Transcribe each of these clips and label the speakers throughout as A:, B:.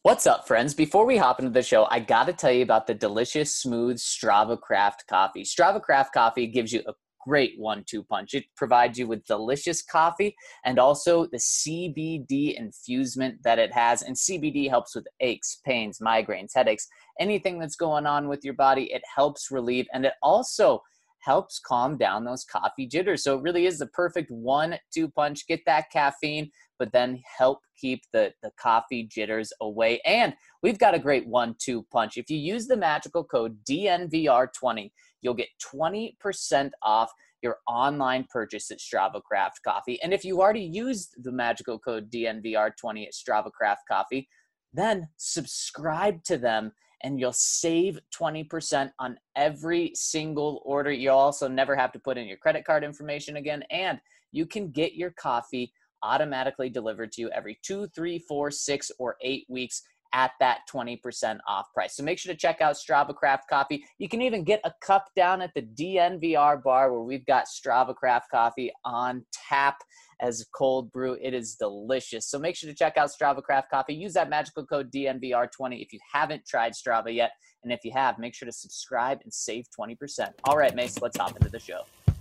A: What's up, friends? Before we hop into the show, I got to tell you about the delicious, smooth Strava Craft coffee. Strava Craft coffee gives you a great 1-2 punch. It provides you with delicious coffee and also the CBD infusement that it has. And CBD helps with aches, pains, migraines, headaches, anything that's going on with your body. It helps relieve, and it also helps calm down those coffee jitters. So it really is the perfect 1-2 punch. Get that caffeine, but then help keep the coffee jitters away. And we've got a great 1-2 punch. If you use the magical code DNVR20, you'll get 20% off your online purchase at Strava Craft Coffee. And if you already used the magical code DNVR20 at Strava Craft Coffee, then subscribe to them and you'll save 20% on every single order. You'll also never have to put in your credit card information again, and you can get your coffee automatically delivered to you every 2, 3, 4, 6, or 8 weeks at that 20% off price. So make sure to check out Strava Craft Coffee. You can even get a cup down at the DNVR bar where we've got Strava Craft Coffee on tap as cold brew. It is delicious. So make sure to check out Strava Craft Coffee. Use that magical code DNVR20 if you haven't tried Strava yet. And if you have, make sure to subscribe and save 20%. All right, Mace, let's hop into the show.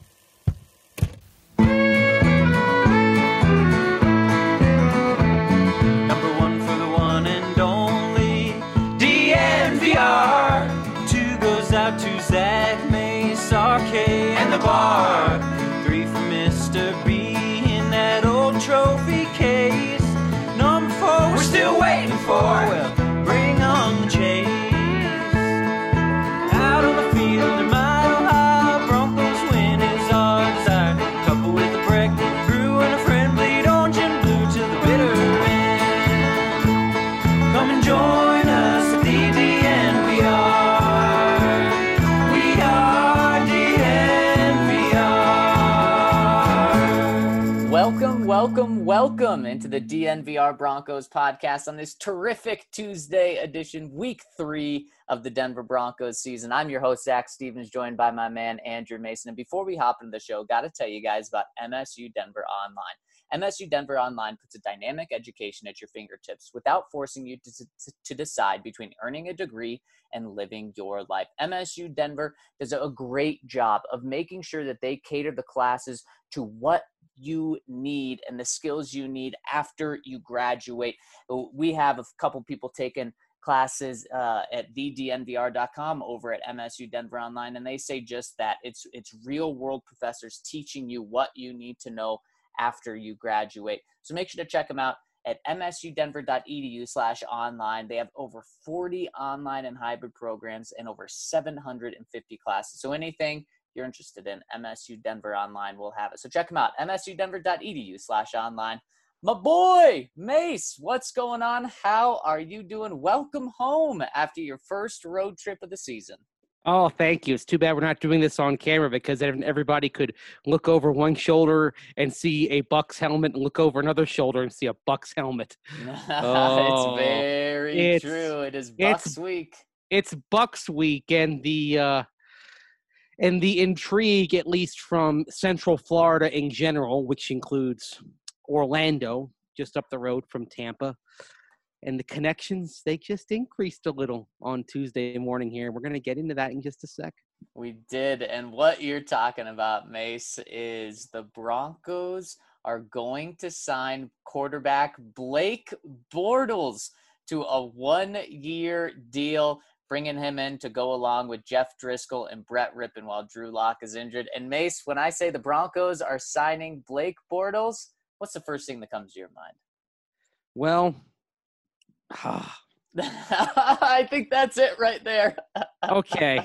B: Number one for the one and only DNVR. 2 goes out to Zach, Mace, RK, and the bar. 3 for Mr. B in that old trophy case. Number 4 we're still waiting for. Well, bring on the chase. Out on the field, a mile high, Broncos win is our desire. Couple with a pregnant brew and a friend bleed orange and blue to the bitter end. Come and join us at the DNVR. We are DNVR.
A: Welcome into the DNVR Broncos podcast on this terrific Tuesday edition, week 3 of the Denver Broncos season. I'm your host, Zach Stevens, joined by my man, Andrew Mason. And before we hop into the show, got to tell you guys about MSU Denver Online. MSU Denver Online puts a dynamic education at your fingertips without forcing you to decide between earning a degree and living your life. MSU Denver does a great job of making sure that they cater the classes to what you need and the skills you need after you graduate. We have a couple people taking classes at thednvr.com over at MSU Denver Online, and they say just that. It's real world professors teaching you what you need to know after you graduate. So make sure to check them out at msudenver.edu/online. They have over 40 online and hybrid programs and over 750 classes. So anything you're interested in, MSU Denver Online will have it. So check them out, msudenver.edu/online. My boy, Mace, what's going on? How are you doing? Welcome home after your first road trip of the season.
C: Oh, thank you. It's too bad we're not doing this on camera because then everybody could look over one shoulder and see a Bucs helmet and look over another shoulder and see a Bucs helmet.
A: It's very true. It is Bucs week.
C: It's Bucs week, and the intrigue, at least from Central Florida in general, which includes Orlando, just up the road from Tampa, and the connections, they just increased a little on Tuesday morning here. We're going to get into that in just a sec.
A: We did, and what you're talking about, Mace, is the Broncos are going to sign quarterback Blake Bortles to a 1-year deal, bringing him in to go along with Jeff Driscoll and Brett Rippon while Drew Lock is injured. And Mace, when I say the Broncos are signing Blake Bortles, what's the first thing that comes to your mind?
C: Well,
A: I think that's it right there.
C: Okay.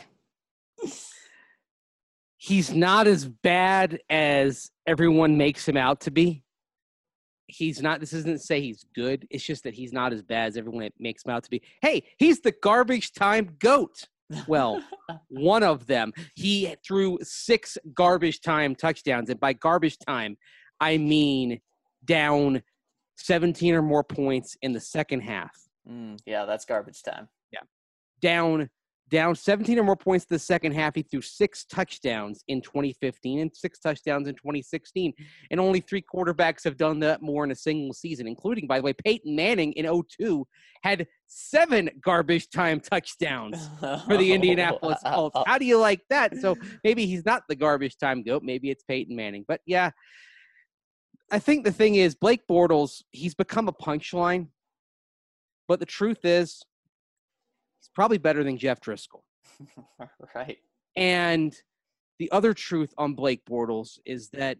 C: He's not as bad as everyone makes him out to be. He's not. This isn't to say he's good. It's just that he's not as bad as everyone makes him out to be. Hey, he's the garbage time GOAT. Well, one of them. He threw 6 garbage time touchdowns. And by garbage time, I mean down 17 or more points in the second half.
A: Yeah, that's garbage time.
C: Yeah. Down 17 or more points in the second half. He threw 6 touchdowns in 2015 and 6 touchdowns in 2016. And only 3 quarterbacks have done that more in a single season, including, by the way, Peyton Manning in 2002 had 7 garbage time touchdowns for the Indianapolis Colts. How do you like that? So maybe he's not the garbage time GOAT. Maybe it's Peyton Manning. But, yeah, I think the thing is Blake Bortles, he's become a punchline. But the truth is he's probably better than Jeff Driscoll.
A: Right.
C: And the other truth on Blake Bortles is that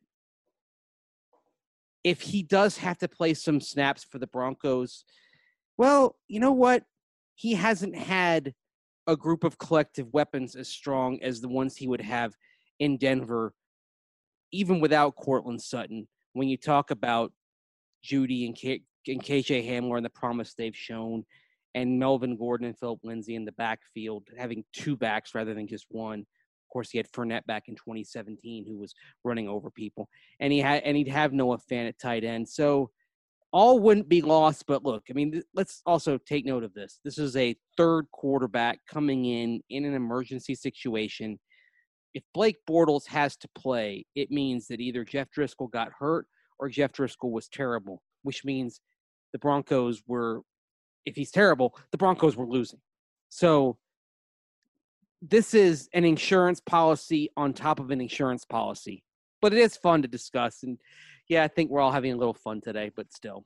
C: if he does have to play some snaps for the Broncos, well, you know what? He hasn't had a group of collective weapons as strong as the ones he would have in Denver, even without Cortland Sutton. When you talk about Judy and KJ Hamler and the promise they've shown, and Melvin Gordon and Philip Lindsay in the backfield, having 2 backs rather than just one. Of course, he had Fournette back in 2017, who was running over people, and he'd have Noah Fant at tight end. So all wouldn't be lost. But look, I mean, let's also take note of this. This is a third quarterback coming in an emergency situation. If Blake Bortles has to play, it means that either Jeff Driscoll got hurt or Jeff Driscoll was terrible, which means the Broncos were, if he's terrible, the Broncos were losing. So this is an insurance policy on top of an insurance policy, but it is fun to discuss. And yeah, I think we're all having a little fun today, but still,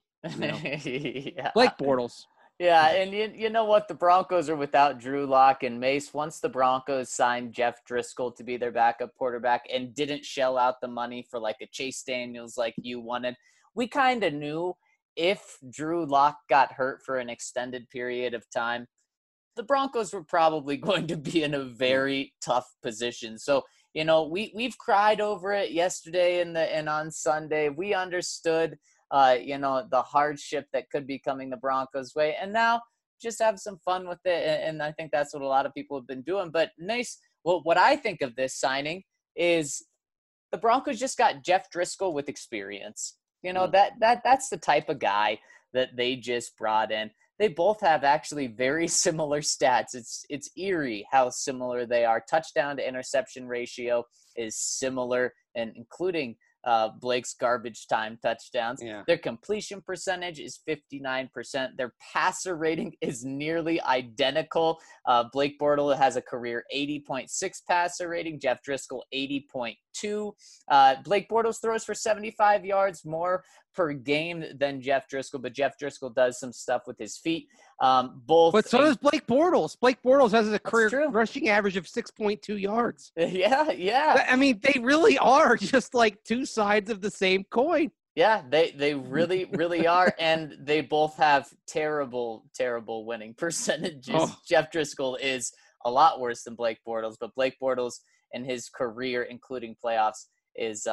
A: Yeah.
C: Blake Bortles.
A: Yeah, and you know what? The Broncos are without Drew Lock and Mace. Once the Broncos signed Jeff Driscoll to be their backup quarterback and didn't shell out the money for like a Chase Daniels like you wanted, we kind of knew if Drew Lock got hurt for an extended period of time, the Broncos were probably going to be in a very tough position. So, you know, we've cried over it yesterday and on Sunday. We understood, you know, the hardship that could be coming the Broncos' way. And now just have some fun with it. And I think that's what a lot of people have been doing. But nice. Well, what I think of this signing is the Broncos just got Jeff Driscoll with experience. You know, that's the type of guy that they just brought in. They both have actually very similar stats. It's eerie how similar they are. Touchdown to interception ratio is similar, and including Blake's garbage time touchdowns.
C: Yeah.
A: Their completion percentage is 59%. Their passer rating is nearly identical. Blake Bortles has a career 80.6 passer rating. Jeff Driscoll 80.2. Blake Bortles throws for 75 yards more per game than Jeff Driscoll, but Jeff Driscoll does some stuff with his feet.
C: But so does Blake Bortles. Blake Bortles has a career rushing average of 6.2 yards.
A: Yeah.
C: I mean, they really are just like two sides of the same coin.
A: Yeah, they really, really are. And they both have terrible, terrible winning percentages. Oh. Jeff Driscoll is a lot worse than Blake Bortles, but Blake Bortles in his career, including playoffs, is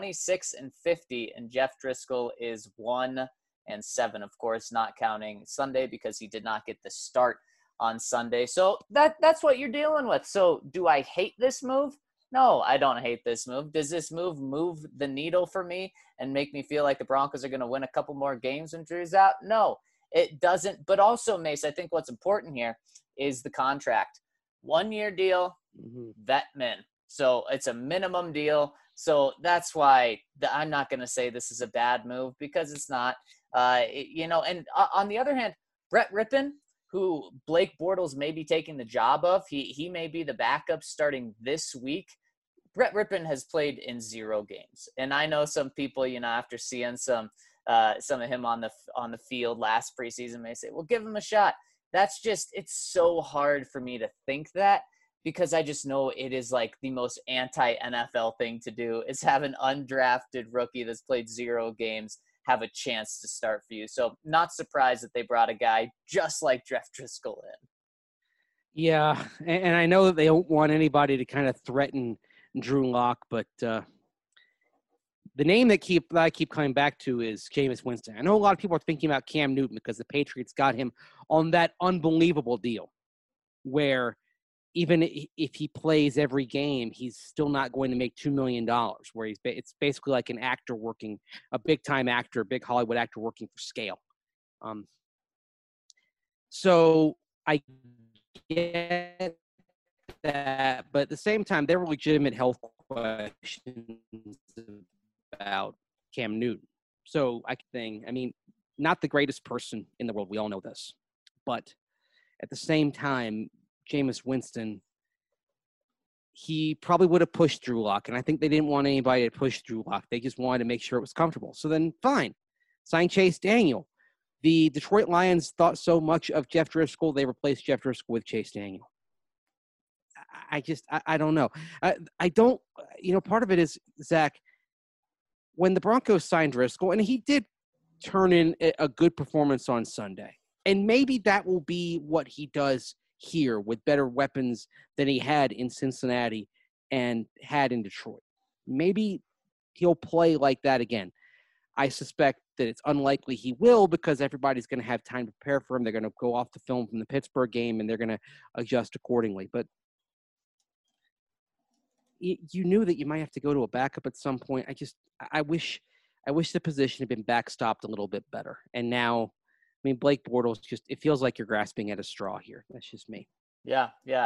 A: 26-50, and Jeff Driscoll is 1-7, of course, not counting Sunday because he did not get the start on Sunday. So that's what you're dealing with. So do I hate this move? No, I don't hate this move. Does this move the needle for me and make me feel like the Broncos are going to win a couple more games when Drew's out? No, it doesn't. But also, Mace, I think what's important here is the contract. 1-year deal, vet min. So it's a minimum deal. So that's why I'm not going to say this is a bad move, because it's not. You know, and on the other hand, Brett Rippon, who Blake Bortles may be taking the job of, he may be the backup starting this week. Brett Rippon has played in 0 games. And I know some people, you know, after seeing some of him on the field last preseason may say, well, give him a shot. That's just, it's so hard for me to think that, because I just know it is like the most anti-NFL thing to do, is have an undrafted rookie that's played 0 games have a chance to start for you. So not surprised that they brought a guy just like Jeff Driscoll in.
C: Yeah, and I know that they don't want anybody to kind of threaten Drew Lock, but the name that I keep coming back to is Jameis Winston. I know a lot of people are thinking about Cam Newton because the Patriots got him on that unbelievable deal where even if he plays every game, he's still not going to make $2 million, where it's basically like an actor working, a big-time actor, big Hollywood actor working for scale. So I get that, but at the same time, there were legitimate health questions about Cam Newton. So I mean, not the greatest person in the world. We all know this. But At the same time, Jameis Winston, he probably would have pushed Drew Lock, and I think they didn't want anybody to push Drew Lock. They just wanted to make sure it was comfortable. So then, fine, sign Chase Daniel. The Detroit Lions thought so much of Jeff Driscoll, they replaced Jeff Driscoll with Chase Daniel. I don't know. I don't, part of it is, Zach, when the Broncos signed Driscoll, and he did turn in a good performance on Sunday, and maybe that will be what he does here with better weapons than he had in Cincinnati and had in Detroit. Maybe he'll play like that again. I suspect that it's unlikely he will because everybody's going to have time to prepare for him. They're going to go off the film from the Pittsburgh game, and they're going to adjust accordingly. But you knew that you might have to go to a backup at some point. I wish the position had been backstopped a little bit better. And now, Blake Bortles, it feels like you're grasping at a straw here. That's just me.
A: Yeah,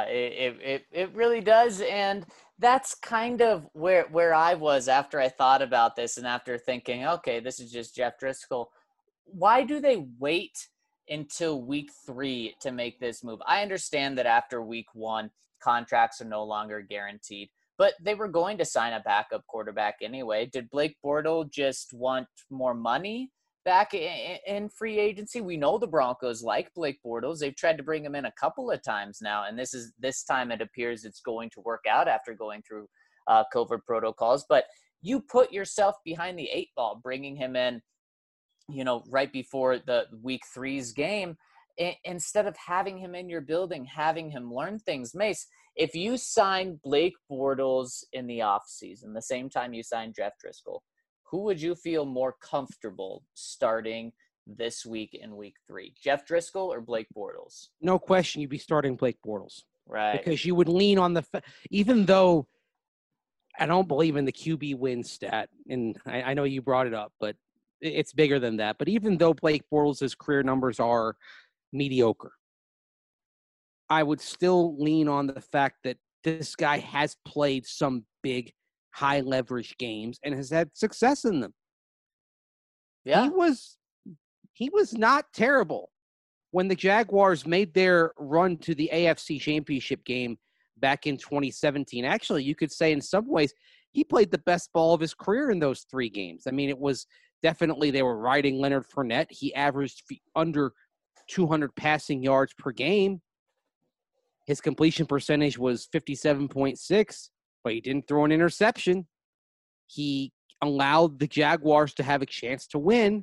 A: it really does. And that's kind of where I was after I thought about this and after thinking, okay, this is just Jeff Driscoll. Why do they wait until week 3 to make this move? I understand that after week 1, contracts are no longer guaranteed, but they were going to sign a backup quarterback anyway. Did Blake Bortles just want more money back in free agency? We know the Broncos like Blake Bortles. They've tried to bring him in a couple of times now, and this time it appears it's going to work out after going through COVID protocols. But you put yourself behind the 8 ball, bringing him in, right before the week 3's game, instead of having him in your building, having him learn things. Mace, if you sign Blake Bortles in the offseason, the same time you sign Jeff Driscoll, who would you feel more comfortable starting this week in week 3? Jeff Driscoll or Blake Bortles?
C: No question, you'd be starting Blake Bortles.
A: Right.
C: Because you would lean on even though I don't believe in the QB win stat, and I know you brought it up, but it's bigger than that. But even though Blake Bortles' career numbers are mediocre, I would still lean on the fact that this guy has played some big, high leverage games and has had success in them.
A: Yeah.
C: He was not terrible when the Jaguars made their run to the AFC Championship game back in 2017. Actually, you could say in some ways he played the best ball of his career in those 3 games. It was definitely they were riding Leonard Fournette. He averaged under 200 passing yards per game. His completion percentage was 57.6, but he didn't throw an interception. He allowed the Jaguars to have a chance to win.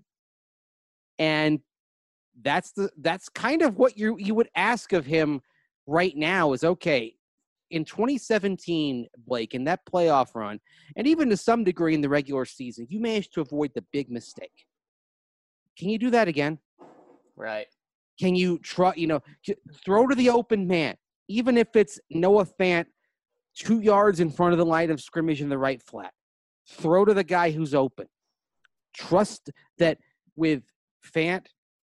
C: And that's kind of what you would ask of him right now is, okay, in 2017, Blake, in that playoff run, and even to some degree in the regular season, you managed to avoid the big mistake. Can you do that again?
A: Right.
C: Can you throw to the open man, even if it's Noah Fant 2 yards in front of the line of scrimmage in the right flat? Throw to the guy who's open. Trust that with Fant,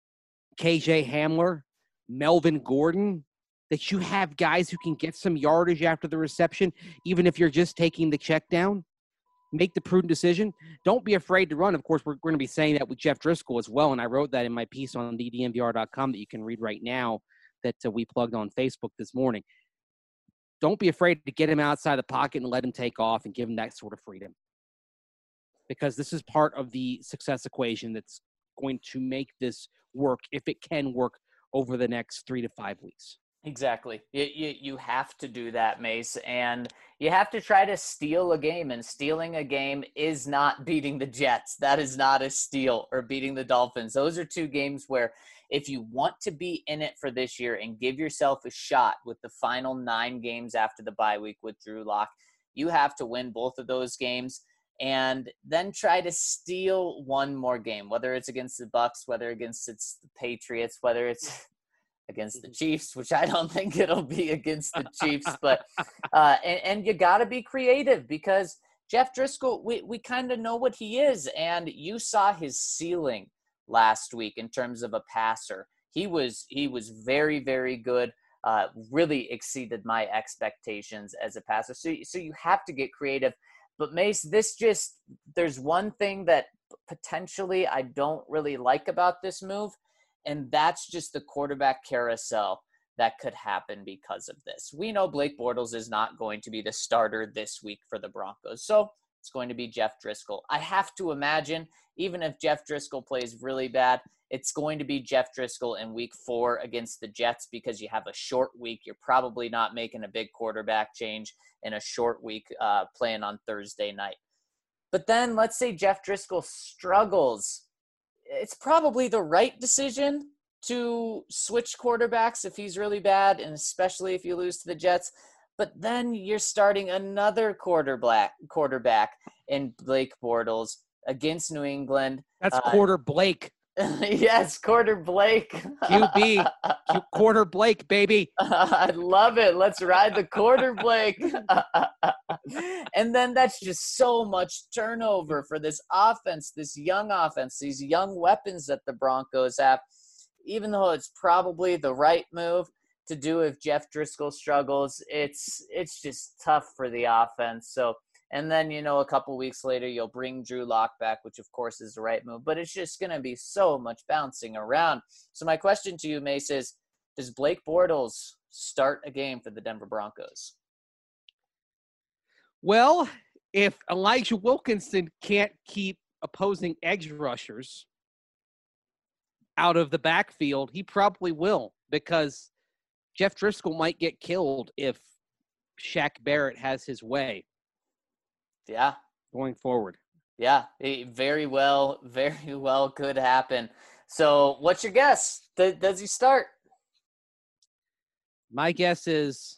C: KJ Hamler, Melvin Gordon, that you have guys who can get some yardage after the reception, even if you're just taking the check down. Make the prudent decision. Don't be afraid to run. Of course, we're going to be saying that with Jeff Driscoll as well, and I wrote that in my piece on DNVR.com that you can read right now that we plugged on Facebook this morning. Don't be afraid to get him outside the pocket and let him take off and give him that sort of freedom, because this is part of the success equation that's going to make this work, if it can work, over the next 3 to 5 weeks.
A: Exactly. You have to do that, Mace, and you have to try to steal a game, and stealing a game is not beating the Jets. That is not a steal, or beating the Dolphins. Those are 2 games where if you want to be in it for this year and give yourself a shot with the final 9 games after the bye week with Drew Lock, you have to win both of those games and then try to steal one more game, whether it's against the Bucs, whether against the Patriots, whether it's against the Chiefs, which I don't think it'll be against the Chiefs, but and you got to be creative, because Jeff Driscoll, we kind of know what he is, and you saw his ceiling last week in terms of a passer. He was very, very good, really exceeded my expectations as a passer. So you have to get creative. But Mace, there's one thing that potentially I don't really like about this move, and that's just the quarterback carousel. that could happen because of this. We know Blake Bortles is not going to be the starter this week for the Broncos, so it's going to be Jeff Driscoll. I have to imagine, even if Jeff Driscoll plays really bad, it's going to be Jeff Driscoll in week 4 against the Jets because you have a short week. You're probably not making a big quarterback change in a short week playing on Thursday night. But then let's say Jeff Driscoll struggles. It's probably the right decision to switch quarterbacks if he's really bad, and especially if you lose to the Jets. But then you're starting another quarterback in Blake Bortles against New England.
C: That's quarter Blake.
A: Yes, quarter Blake.
C: QB. Quarter Blake, baby.
A: I love it. Let's ride the quarter Blake. And then that's just so much turnover for this offense, this young offense, these young weapons that the Broncos have. Even though it's probably the right move to do if Jeff Driscoll struggles, it's just tough for the offense. So, and then, a couple weeks later, you'll bring Drew Lock back, which of course is the right move, but it's just going to be so much bouncing around. So my question to you, Mace, is does Blake Bortles start a game for the Denver Broncos?
C: Well, if Elijah Wilkinson can't keep opposing edge rushers out of the backfield, he probably will, because Jeff Driscoll might get killed if Shaq Barrett has his way.
A: Yeah.
C: Going forward.
A: Yeah, very well could happen. So what's your guess? Does he start?
C: My guess is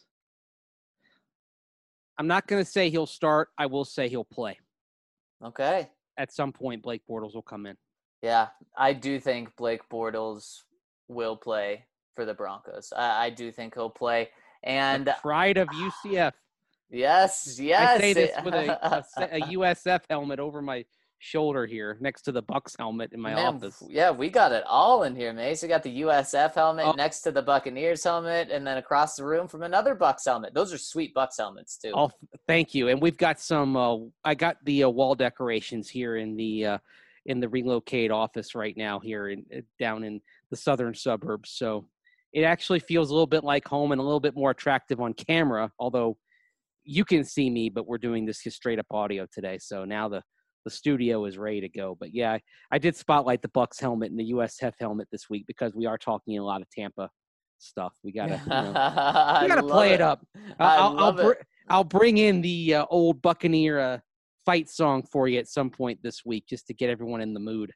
C: I'm not going to say he'll start. I will say he'll play.
A: Okay.
C: At some point, Blake Bortles will come in.
A: Yeah, I do think Blake Bortles will play for the Broncos. I do think he'll play. And
C: the pride of UCF.
A: Yes.
C: I say this with a USF helmet over my shoulder here next to the Bucks helmet in my office.
A: Yeah, we got it all in here, Mace. We got the USF helmet next to the Buccaneers helmet, and then across the room from another Bucks helmet. Those are sweet Bucks helmets too.
C: Oh, thank you. And we've got some I got the wall decorations here in the Relocate office right now here down in the southern suburbs. So it actually feels a little bit like home and a little bit more attractive on camera, although you can see me, but we're doing this straight up audio today. So now the studio is ready to go. But yeah, I did spotlight the Bucks helmet and the USF helmet this week because we are talking a lot of Tampa stuff. We gotta, we gotta play it up. I'll bring in the old Buccaneer fight song for you at some point this week just to get everyone in the mood.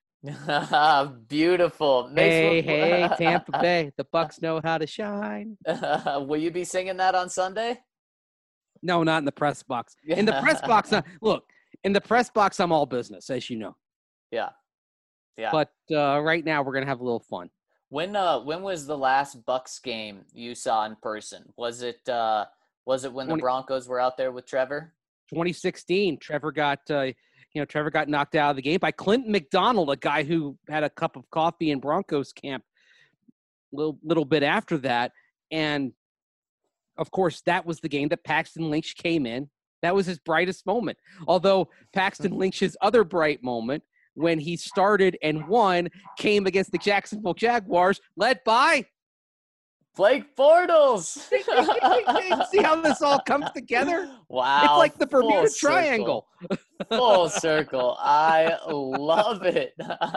A: Beautiful.
C: Hey, Tampa Bay, the Bucks know how to shine.
A: Will you be singing that on Sunday?
C: No, not in the press box. In the press box, look, in the press box, I'm all business, as you know.
A: Yeah.
C: But right now, we're gonna have a little fun.
A: When was the last Bucks game you saw in person? Was it when the Broncos were out there with Trevor?
C: 2016. Trevor got knocked out of the game by Clinton McDonald, a guy who had a cup of coffee in Broncos camp a little bit after that. And, of course, that was the game that Paxton Lynch came in. That was his brightest moment. Although Paxton Lynch's other bright moment, when he started and won, came against the Jacksonville Jaguars, led by
A: Blake Bortles.
C: See how this all comes together?
A: Wow.
C: It's like the Bermuda Triangle.
A: Full circle. I love it.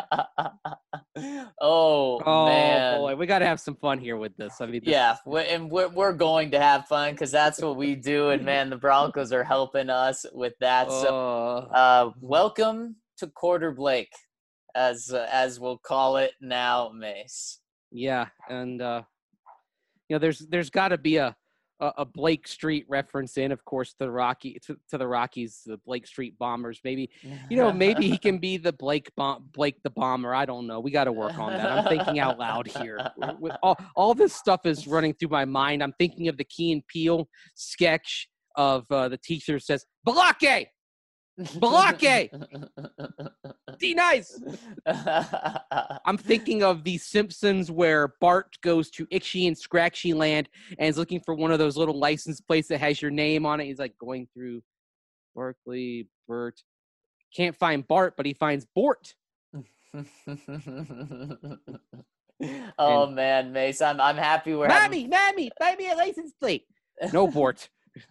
A: Oh, man.
C: Boy, we got to have some fun here with this. I mean,
A: we're going to have fun because that's what we do. And, man, the Broncos are helping us with that. So welcome to Quarter Blake, as we'll call it now, Mace.
C: Yeah, and there's got to be a Blake Street reference in, of course, to the Rockies, the Blake Street Bombers. Maybe, maybe he can be the Blake the Bomber. I don't know. We got to work on that. I'm thinking out loud here. All this stuff is running through my mind. I'm thinking of the Key and Peele sketch of the teacher says, Balake! Balake! D-nice! I'm thinking of The Simpsons where Bart goes to Itchy and Scratchy Land and is looking for one of those little license plates that has your name on it. He's like going through Berkeley, Bert. Can't find Bart, but he finds Bort.
A: Oh
C: And
A: man, Mace, I'm happy we're having.
C: Mammy, buy me a license plate. No, Bort.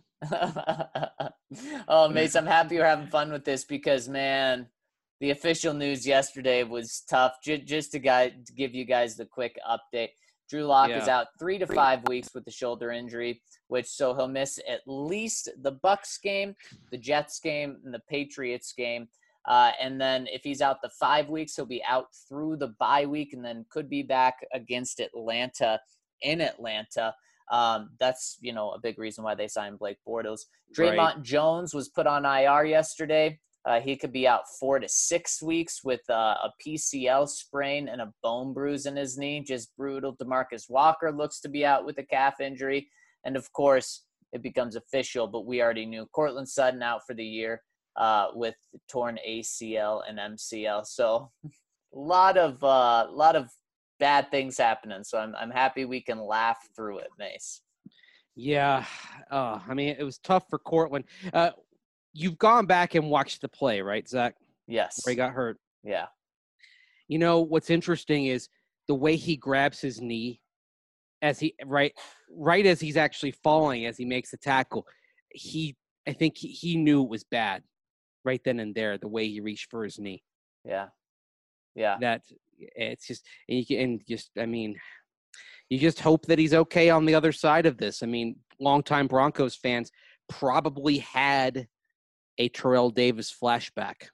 A: Oh, Mace, I'm happy you're having fun with this because, man, the official news yesterday was tough. Just to give you guys the quick update. Drew Lock is
C: Yeah.
A: out 3 to 5 weeks with the shoulder injury, so he'll miss at least the Bucks game, the Jets game, and the Patriots game. And then if he's out the 5 weeks, he'll be out through the bye week and then could be back against Atlanta in Atlanta. That's, a big reason why they signed Blake Bortles. Draymond
C: Right.
A: Jones was put on IR yesterday. He could be out 4 to 6 weeks with a PCL sprain and a bone bruise in his knee. Just brutal. DeMarcus Walker looks to be out with a calf injury. And, of course, it becomes official, but we already knew Courtland Sutton out for the year with torn ACL and MCL. So a lot of bad things happening. So I'm happy we can laugh through it, Mace.
C: Yeah. I mean, it was tough for Cortland. You've gone back and watched the play, right, Zach?
A: Yes.
C: Where he got hurt.
A: Yeah.
C: What's interesting is the way he grabs his knee as he right as he's actually falling, as he makes the tackle. I think he knew it was bad right then and there, the way he reached for his knee.
A: Yeah. Yeah.
C: That it's just, you just hope that he's okay on the other side of this. I mean, longtime Broncos fans probably had a Terrell Davis flashback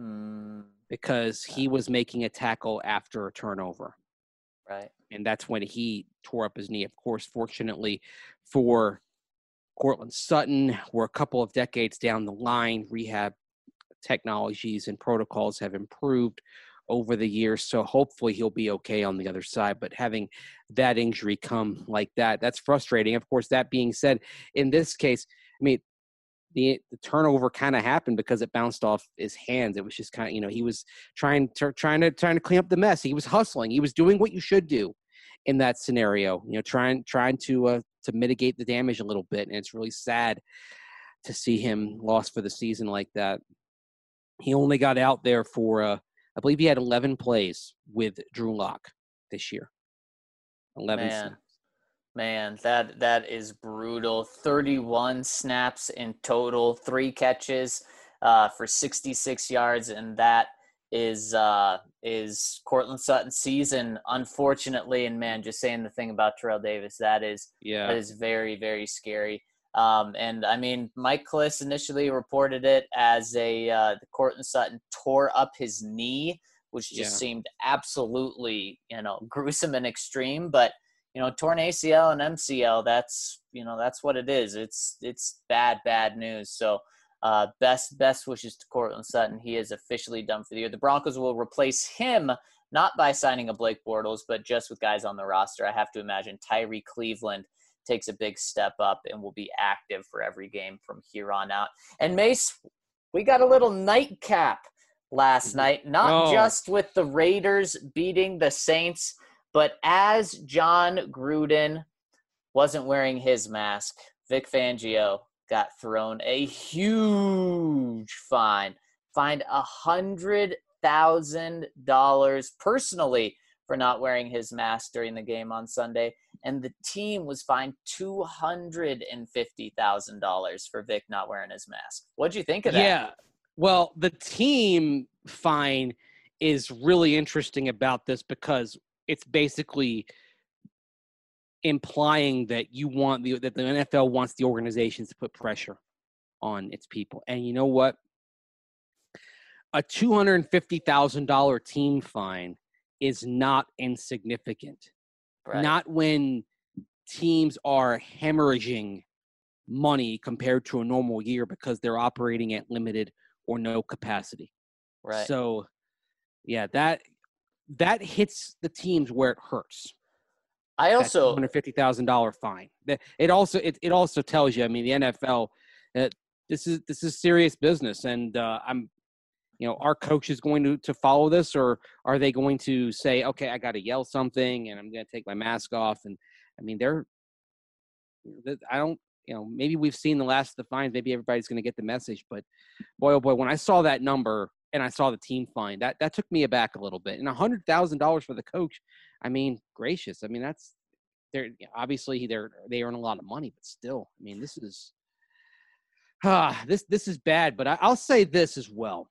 C: because he was making a tackle after a turnover.
A: Right.
C: And that's when he tore up his knee. Of course, fortunately for Courtland Sutton, we're a couple of decades down the line. Rehab technologies and protocols have improved over the years, so hopefully he'll be okay on the other side. But having that injury come like that, that's frustrating. Of course, that being said, in this case, I mean, the turnover kind of happened because it bounced off his hands. It was just kind of, he was trying to clean up the mess. He was hustling. He was doing what you should do in that scenario. Trying to mitigate the damage a little bit. And it's really sad to see him lost for the season like that. He only got out there for, I believe he had 11 plays with Drew Lock this year. 11 snaps.
A: Man, that is brutal. 31 snaps in total, 3 catches for 66 yards, and that is Courtland Sutton's season, unfortunately. And man, just saying the thing about Terrell Davis, that is very, very scary. And I mean, Mike Klis initially reported it as Courtland Sutton tore up his knee, which just seemed absolutely, gruesome and extreme, but torn ACL and MCL, that's what it is. It's bad news. So best wishes to Courtland Sutton. He is officially done for the year. The Broncos will replace him, not by signing a Blake Bortles, but just with guys on the roster. I have to imagine Tyree Cleveland takes a big step up and will be active for every game from here on out. And Mace, we got a little nightcap last night, not just with the Raiders beating the Saints, but as John Gruden wasn't wearing his mask, Vic Fangio got thrown a huge fine. Fined $100,000 personally for not wearing his mask during the game on Sunday. And the team was fined $250,000 for Vic not wearing his mask. What'd you think of that?
C: Yeah. Well, the team fine is really interesting about this because it's basically implying that that the NFL wants the organizations to put pressure on its people. And you know what? A $250,000 team fine is not insignificant.
A: Right.
C: Not when teams are hemorrhaging money compared to a normal year because they're operating at limited or no capacity.
A: Right.
C: So, yeah, that hits the teams where it hurts.
A: I also
C: $250,000 fine. It also tells you. I mean, the NFL, this is serious business, and our coach is going to follow this, or are they going to say, okay, I got to yell something, and I'm going to take my mask off? And I mean, maybe we've seen the last of the fines. Maybe everybody's going to get the message, but boy, oh boy, when I saw that number and I saw the team fine, that took me aback a little bit. And $100,000 for the coach, I mean, gracious. I mean, they're obviously they earn a lot of money, but still, I mean, this is this is bad. But I'll say this as well.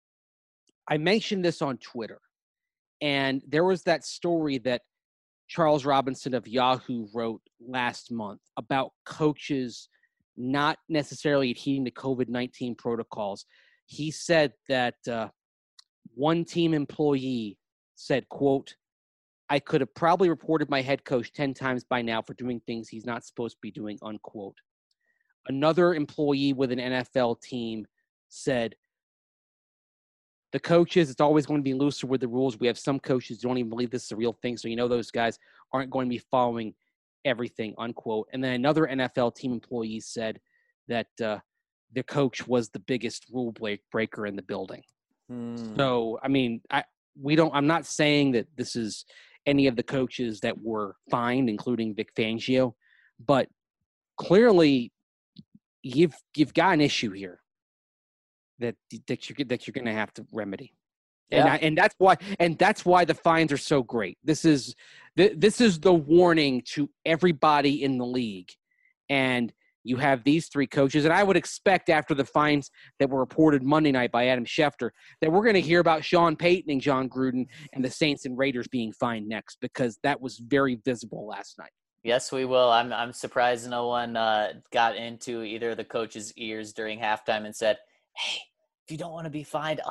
C: I mentioned this on Twitter, and there was that story that Charles Robinson of Yahoo wrote last month about coaches not necessarily adhering to COVID-19 protocols. He said that one team employee said, quote, "I could have probably reported my head coach 10 times by now for doing things he's not supposed to be doing," unquote. Another employee with an NFL team said, "The coaches, it's always going to be looser with the rules. We have some coaches who don't even believe this is a real thing. So, those guys aren't going to be following everything," unquote. And then another NFL team employee said that the coach was the biggest rule breaker in the building. So, I mean, I'm not saying that this is any of the coaches that were fined, including Vic Fangio, but clearly you've got an issue here that you're going to have to remedy. Yeah. And that's why the fines are so great. This is the warning to everybody in the league. And you have these three coaches, and I would expect after the fines that were reported Monday night by Adam Schefter that we're going to hear about Sean Payton and John Gruden and the Saints and Raiders being fined next, because that was very visible last night.
A: Yes, we will. I'm surprised no one got into either of the coaches' ears during halftime and said, "Hey, if you don't want to be fined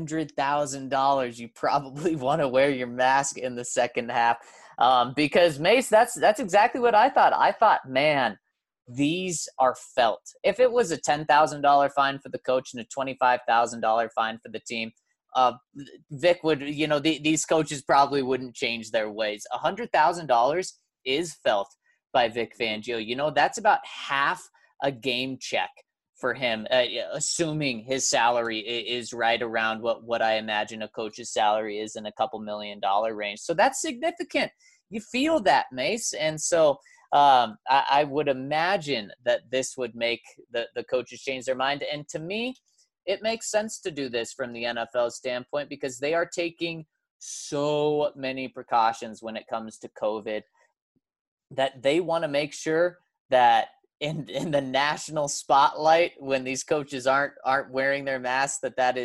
A: $100,000, you probably want to wear your mask in the second half." Because Mace, that's exactly what I thought. I thought, man, these are felt. If it was a $10,000 fine for the coach and a $25,000 fine for the team, Vic would, these coaches probably wouldn't change their ways. $100,000 is felt by Vic Fangio. That's about half a game check for him, assuming his salary is right around what I imagine a coach's salary is, in a couple $1 million range. So that's significant. You feel that, Mace. And so I would imagine that this would make the coaches change their mind. And to me, it makes sense to do this from the NFL standpoint, because they are taking so many precautions when it comes to COVID that they want to make sure that in the national spotlight, when these coaches aren't wearing their masks, that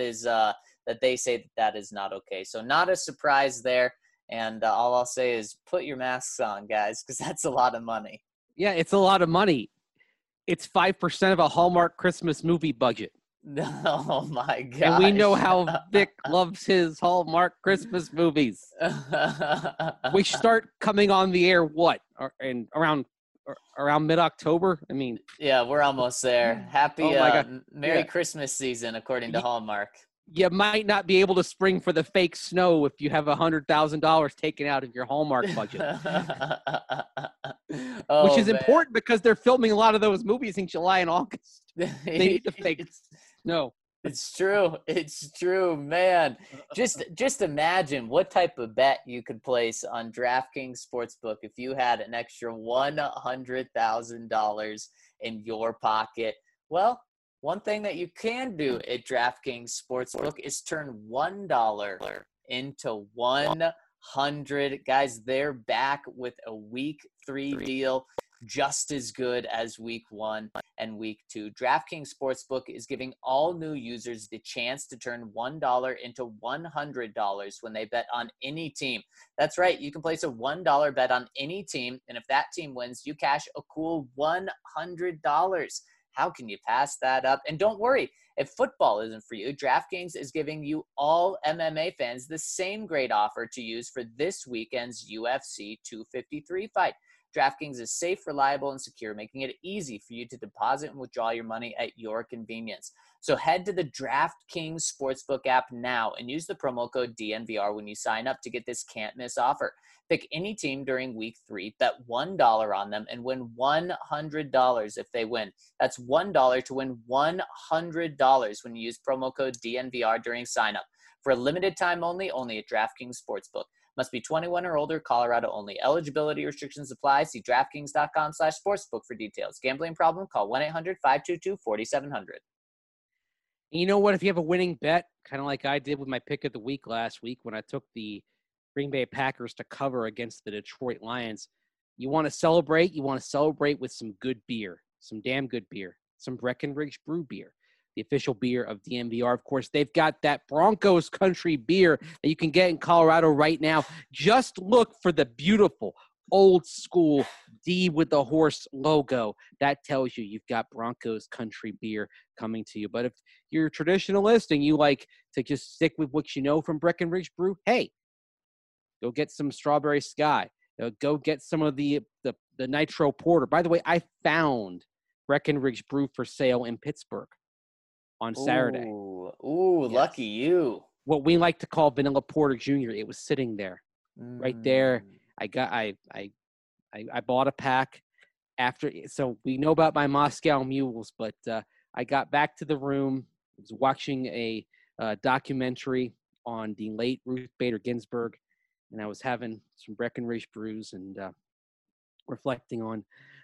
A: they say that is not okay. So not a surprise there. And all I'll say is put your masks on, guys, because that's a lot of money.
C: Yeah, it's a lot of money. It's 5% of a Hallmark Christmas movie budget.
A: Oh, my God.
C: And we know how Vic loves his Hallmark Christmas movies. We start coming on the air, around mid-October? I mean.
A: Yeah, we're almost there. Happy Merry Christmas season, according to Hallmark.
C: You might not be able to spring for the fake snow if you have $100,000 taken out of your Hallmark budget. Which is important because they're filming a lot of those movies in July and August. They need the fake snow.
A: It's true. It's true, man. Just imagine what type of bet you could place on DraftKings Sportsbook if you had an extra $100,000 in your pocket. Well, one thing that you can do at DraftKings Sportsbook is turn $1 into $100. Guys, they're back with a week 3 deal, just as good as week 1 and week 2. DraftKings Sportsbook is giving all new users the chance to turn $1 into $100 when they bet on any team. That's right. You can place a $1 bet on any team, and if that team wins, you cash a cool $100. How can you pass that up? And don't worry, if football isn't for you, DraftKings is giving you all MMA fans the same great offer to use for this weekend's UFC 253 fight. DraftKings is safe, reliable, and secure, making it easy for you to deposit and withdraw your money at your convenience. So head to the DraftKings Sportsbook app now and use the promo code DNVR when you sign up to get this can't-miss offer. Pick any team during week 3, bet $1 on them, and win $100 if they win. That's $1 to win $100 when you use promo code DNVR during sign-up. For a limited time only at DraftKings Sportsbook. Must be 21 or older, Colorado only. Eligibility restrictions apply. See DraftKings.com/sportsbook for details. Gambling problem? Call 1-800-522-4700.
C: You know what? If you have a winning bet, kind of like I did with my pick of the week last week when I took the Green Bay Packers to cover against the Detroit Lions. You want to celebrate? You want to celebrate with some good beer, some damn good beer, some Breckenridge Brew beer, the official beer of DNVR. Of course, they've got that Broncos country beer that you can get in Colorado right now. Just look for the beautiful old school D with the horse logo. That tells you you've got Broncos country beer coming to you. But if you're a traditionalist and you like to just stick with what you know from Breckenridge Brew, hey, go get some Strawberry Sky. Go get some of the Nitro Porter. By the way, I found Breckenridge Brew for sale in Pittsburgh on Saturday.
A: Ooh, yes. Lucky you.
C: What we like to call Vanilla Porter Jr. It was sitting there, right there. I bought a pack after. So we know about my Moscow Mules, but I got back to the room. I was watching a documentary on the late Ruth Bader Ginsburg, and I was having some Breckenridge brews and reflecting on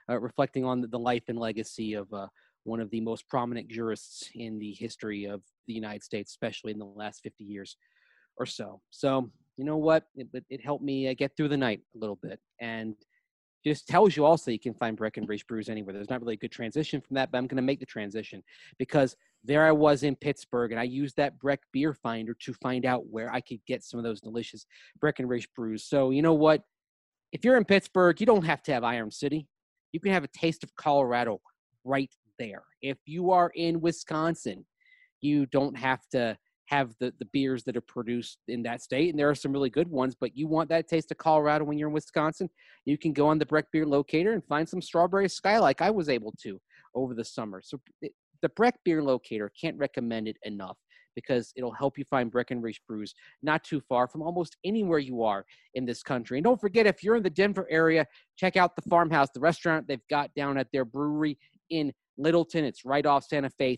C: the life and legacy of one of the most prominent jurists in the history of the United States, especially in the last 50 years or so. So you know what? It helped me get through the night a little bit, and just tells you also you can find Breckenridge brews anywhere. There's not really a good transition from that, but I'm going to make the transition because there I was in Pittsburgh, and I used that Breck Beer Finder to find out where I could get some of those delicious Breckenridge brews. So you know what? If you're in Pittsburgh, you don't have to have Iron City. You can have a taste of Colorado right there. If you are in Wisconsin, you don't have to have the beers that are produced in that state, and there are some really good ones, but you want that taste of Colorado when you're in Wisconsin, you can go on the Breck Beer Locator and find some Strawberry Sky like I was able to over the summer. So the Breck Beer Locator, can't recommend it enough because it'll help you find Breckenridge brews not too far from almost anywhere you are in this country. And don't forget, if you're in the Denver area, check out the Farmhouse, the restaurant they've got down at their brewery in Littleton. It's right off Santa Fe,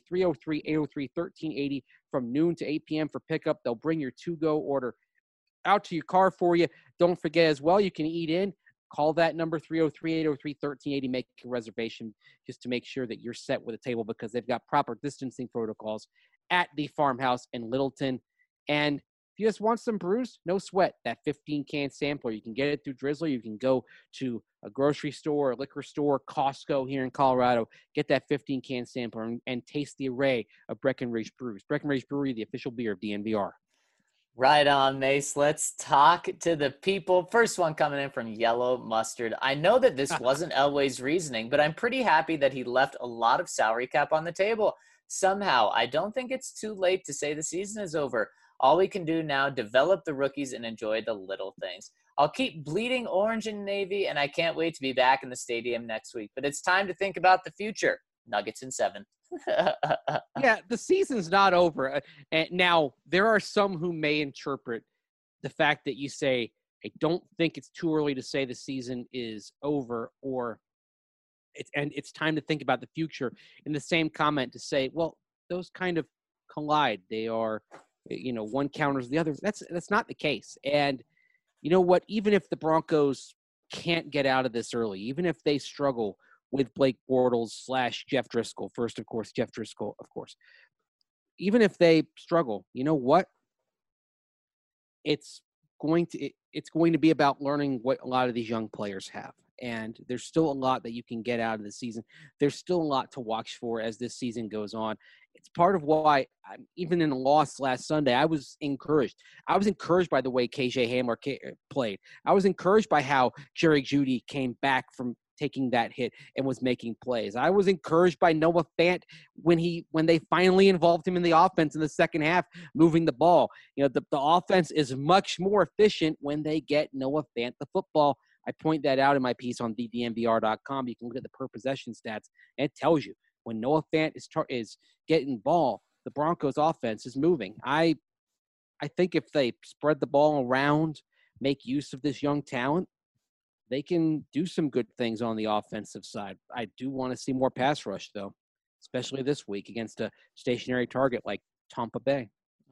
C: 303-803-1380 from noon to 8 p.m. for pickup. They'll bring your to-go order out to your car for you. Don't forget as well, you can eat in. Call that number, 303-803-1380. Make a reservation just to make sure that you're set with a table because they've got proper distancing protocols at the Farmhouse in Littleton. And if you just want some brews, no sweat. That 15-can sampler, you can get it through Drizzler. You can go to a grocery store, a liquor store, Costco here in Colorado, get that 15-can sampler and taste the array of Breckenridge brews. Breckenridge Brewery, the official beer of DNVR.
A: Right on, Mace. Let's talk to the people. First one coming in from Yellow Mustard. I know that this wasn't Elway's reasoning, but I'm pretty happy that he left a lot of salary cap on the table. Somehow, I don't think it's too late to say the season is over. All we can do now, develop the rookies and enjoy the little things. I'll keep bleeding orange and navy, and I can't wait to be back in the stadium next week. But it's time to think about the future. Nuggets in 7.
C: Yeah, the season's not over. And now, there are some who may interpret the fact that you say, I don't think it's too early to say the season is over, or it's time to think about the future in the same comment to say, well, those kind of collide. They are, one counters the other. That's not the case. And you know what? Even if the Broncos can't get out of this early, even if they struggle with Blake Bortles / Jeff Driscoll, first, of course, Jeff Driscoll, of course, even if they struggle, you know what? It's going to be about learning what a lot of these young players have. And there's still a lot that you can get out of the season. There's still a lot to watch for as this season goes on. It's part of why, even in a loss last Sunday, I was encouraged. I was encouraged by the way KJ Hamler played. I was encouraged by how Jerry Jeudy came back from taking that hit and was making plays. I was encouraged by Noah Fant when they finally involved him in the offense in the second half, moving the ball. The offense is much more efficient when they get Noah Fant the football. I point that out in my piece on DNVR.com. You can look at the per possession stats, and it tells you when Noah Fant is getting ball, the Broncos offense is moving. I think if they spread the ball around, make use of this young talent, they can do some good things on the offensive side. I do want to see more pass rush, though, especially this week against a stationary target like Tampa Bay.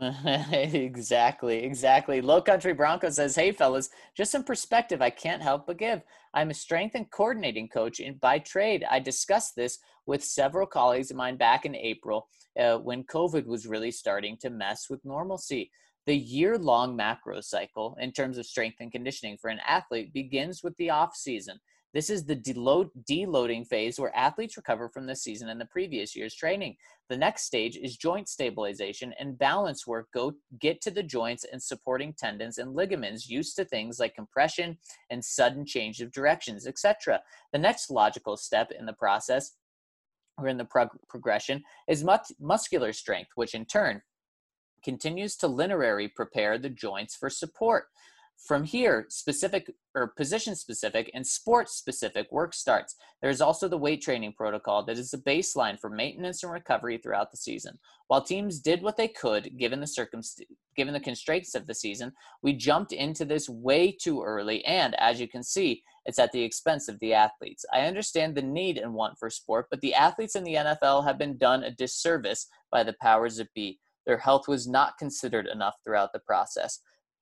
A: Exactly. Low Country Bronco says, hey, fellas, just some perspective I can't help but give. I'm a strength and coordinating coach by trade. I discussed this with several colleagues of mine back in April when COVID was really starting to mess with normalcy. The year-long macro cycle in terms of strength and conditioning for an athlete begins with the off season. This is the deloading phase where athletes recover from the season and the previous year's training. The next stage is joint stabilization and balance work. Get to the joints and supporting tendons and ligaments used to things like compression and sudden change of directions, etc. The next logical step in the process or in the progression is muscular strength, which in turn continues to linearly prepare the joints for support. From here, specific or position-specific and sport-specific work starts. There is also the weight training protocol that is the baseline for maintenance and recovery throughout the season. While teams did what they could, given the constraints of the season, we jumped into this way too early, and as you can see, it's at the expense of the athletes. I understand the need and want for sport, but the athletes in the NFL have been done a disservice by the powers that be. Their health was not considered enough throughout the process.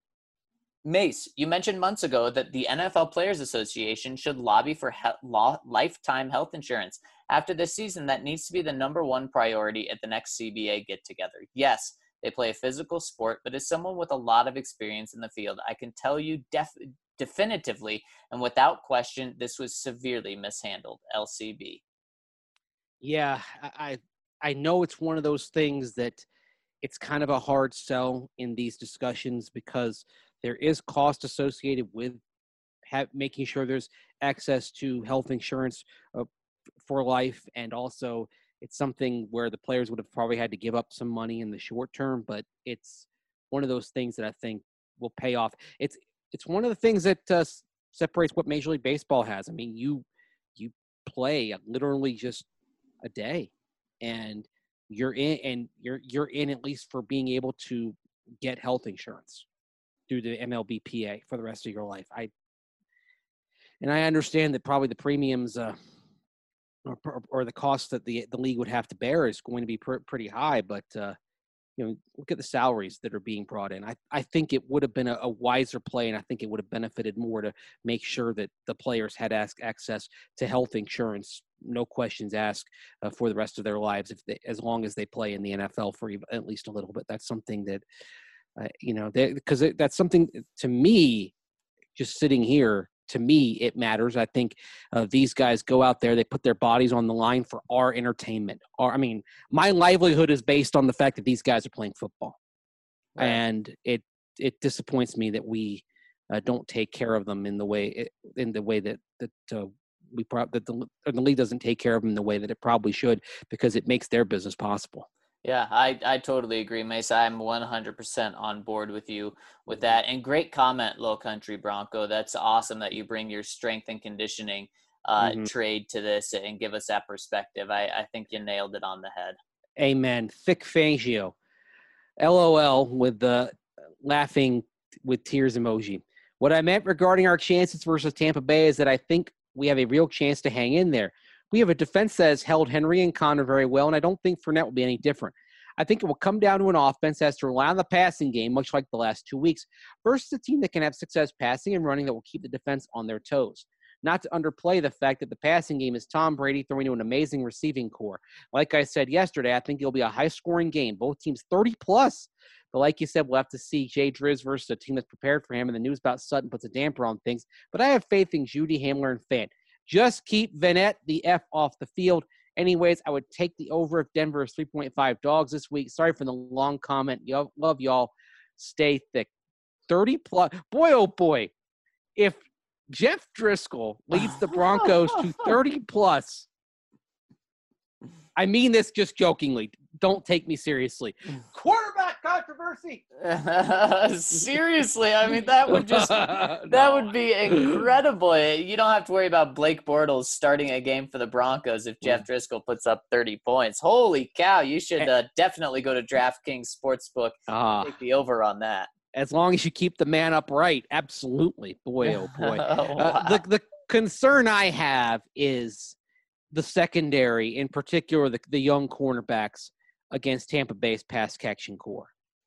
A: Mace, you mentioned months ago that the NFL Players Association should lobby for lifetime health insurance. After this season, that needs to be the number one priority at the next CBA get-together. Yes, they play a physical sport, but as someone with a lot of experience in the field, I can tell you definitively and without question, this was severely mishandled. LCB.
C: Yeah, I know it's one of those things that it's kind of a hard sell in these discussions because there is cost associated with making sure there's access to health insurance for life. And also it's something where the players would have probably had to give up some money in the short term, but it's one of those things that I think will pay off. It's one of the things that separates what Major League Baseball has. I mean, you play literally just a day and you're in at least for being able to get health insurance through the MLBPA for the rest of your life. I understand that probably the premiums or the cost that the league would have to bear is going to be pretty high, but look at the salaries that are being brought in. I think it would have been a wiser play, and I think it would have benefited more to make sure that the players had access to health insurance, no questions asked, for the rest of their lives, as long as they play in the NFL for at least a little bit. That's something that, because that's something to me, just sitting here, to me, it matters. I think these guys go out there, they put their bodies on the line for our entertainment. My livelihood is based on the fact that these guys are playing football. Right. And it disappoints me that we don't take care of them in the way that the league doesn't take care of them the way that it probably should, because it makes their business possible.
A: Yeah, I totally agree, Mace. I'm 100% on board with you with that. And great comment, Low Country Bronco. That's awesome that you bring your strength and conditioning trade to this and give us that perspective. I think you nailed it on the head.
C: Amen. Thick Fangio. LOL with the laughing with tears emoji. What I meant regarding our chances versus Tampa Bay is that I think we have a real chance to hang in there. We have a defense that has held Henry and Connor very well, and I don't think Fournette will be any different. I think it will come down to an offense that has to rely on the passing game, much like the last 2 weeks, versus a team that can have success passing and running that will keep the defense on their toes. Not to underplay the fact that the passing game is Tom Brady throwing to an amazing receiving core. Like I said yesterday, I think it'll be a high-scoring game. Both teams 30-plus. But like you said, we'll have to see Jay Driz versus a team that's prepared for him, and the news about Sutton puts a damper on things. But I have faith in Judy, Hamler, and Fant. Just keep Vanette the F off the field. Anyways, I would take the over if Denver is 3.5 dogs this week. Sorry for the long comment. Love y'all. Stay thick. 30-plus. Boy, oh boy. If Jeff Driscoll leads the Broncos to 30-plus, I mean this just jokingly. Don't take me seriously. Quarterback controversy.
A: Seriously, I mean that would be incredible. You don't have to worry about Blake Bortles starting a game for the Broncos if Jeff Driscoll puts up 30 points. Holy cow! You should definitely go to DraftKings Sportsbook. Take the over on that.
C: As long as you keep the man upright, absolutely. Boy, oh boy.
A: Wow.
C: The concern I have is the secondary, in particular the young cornerbacks against Tampa Bay's pass catching core.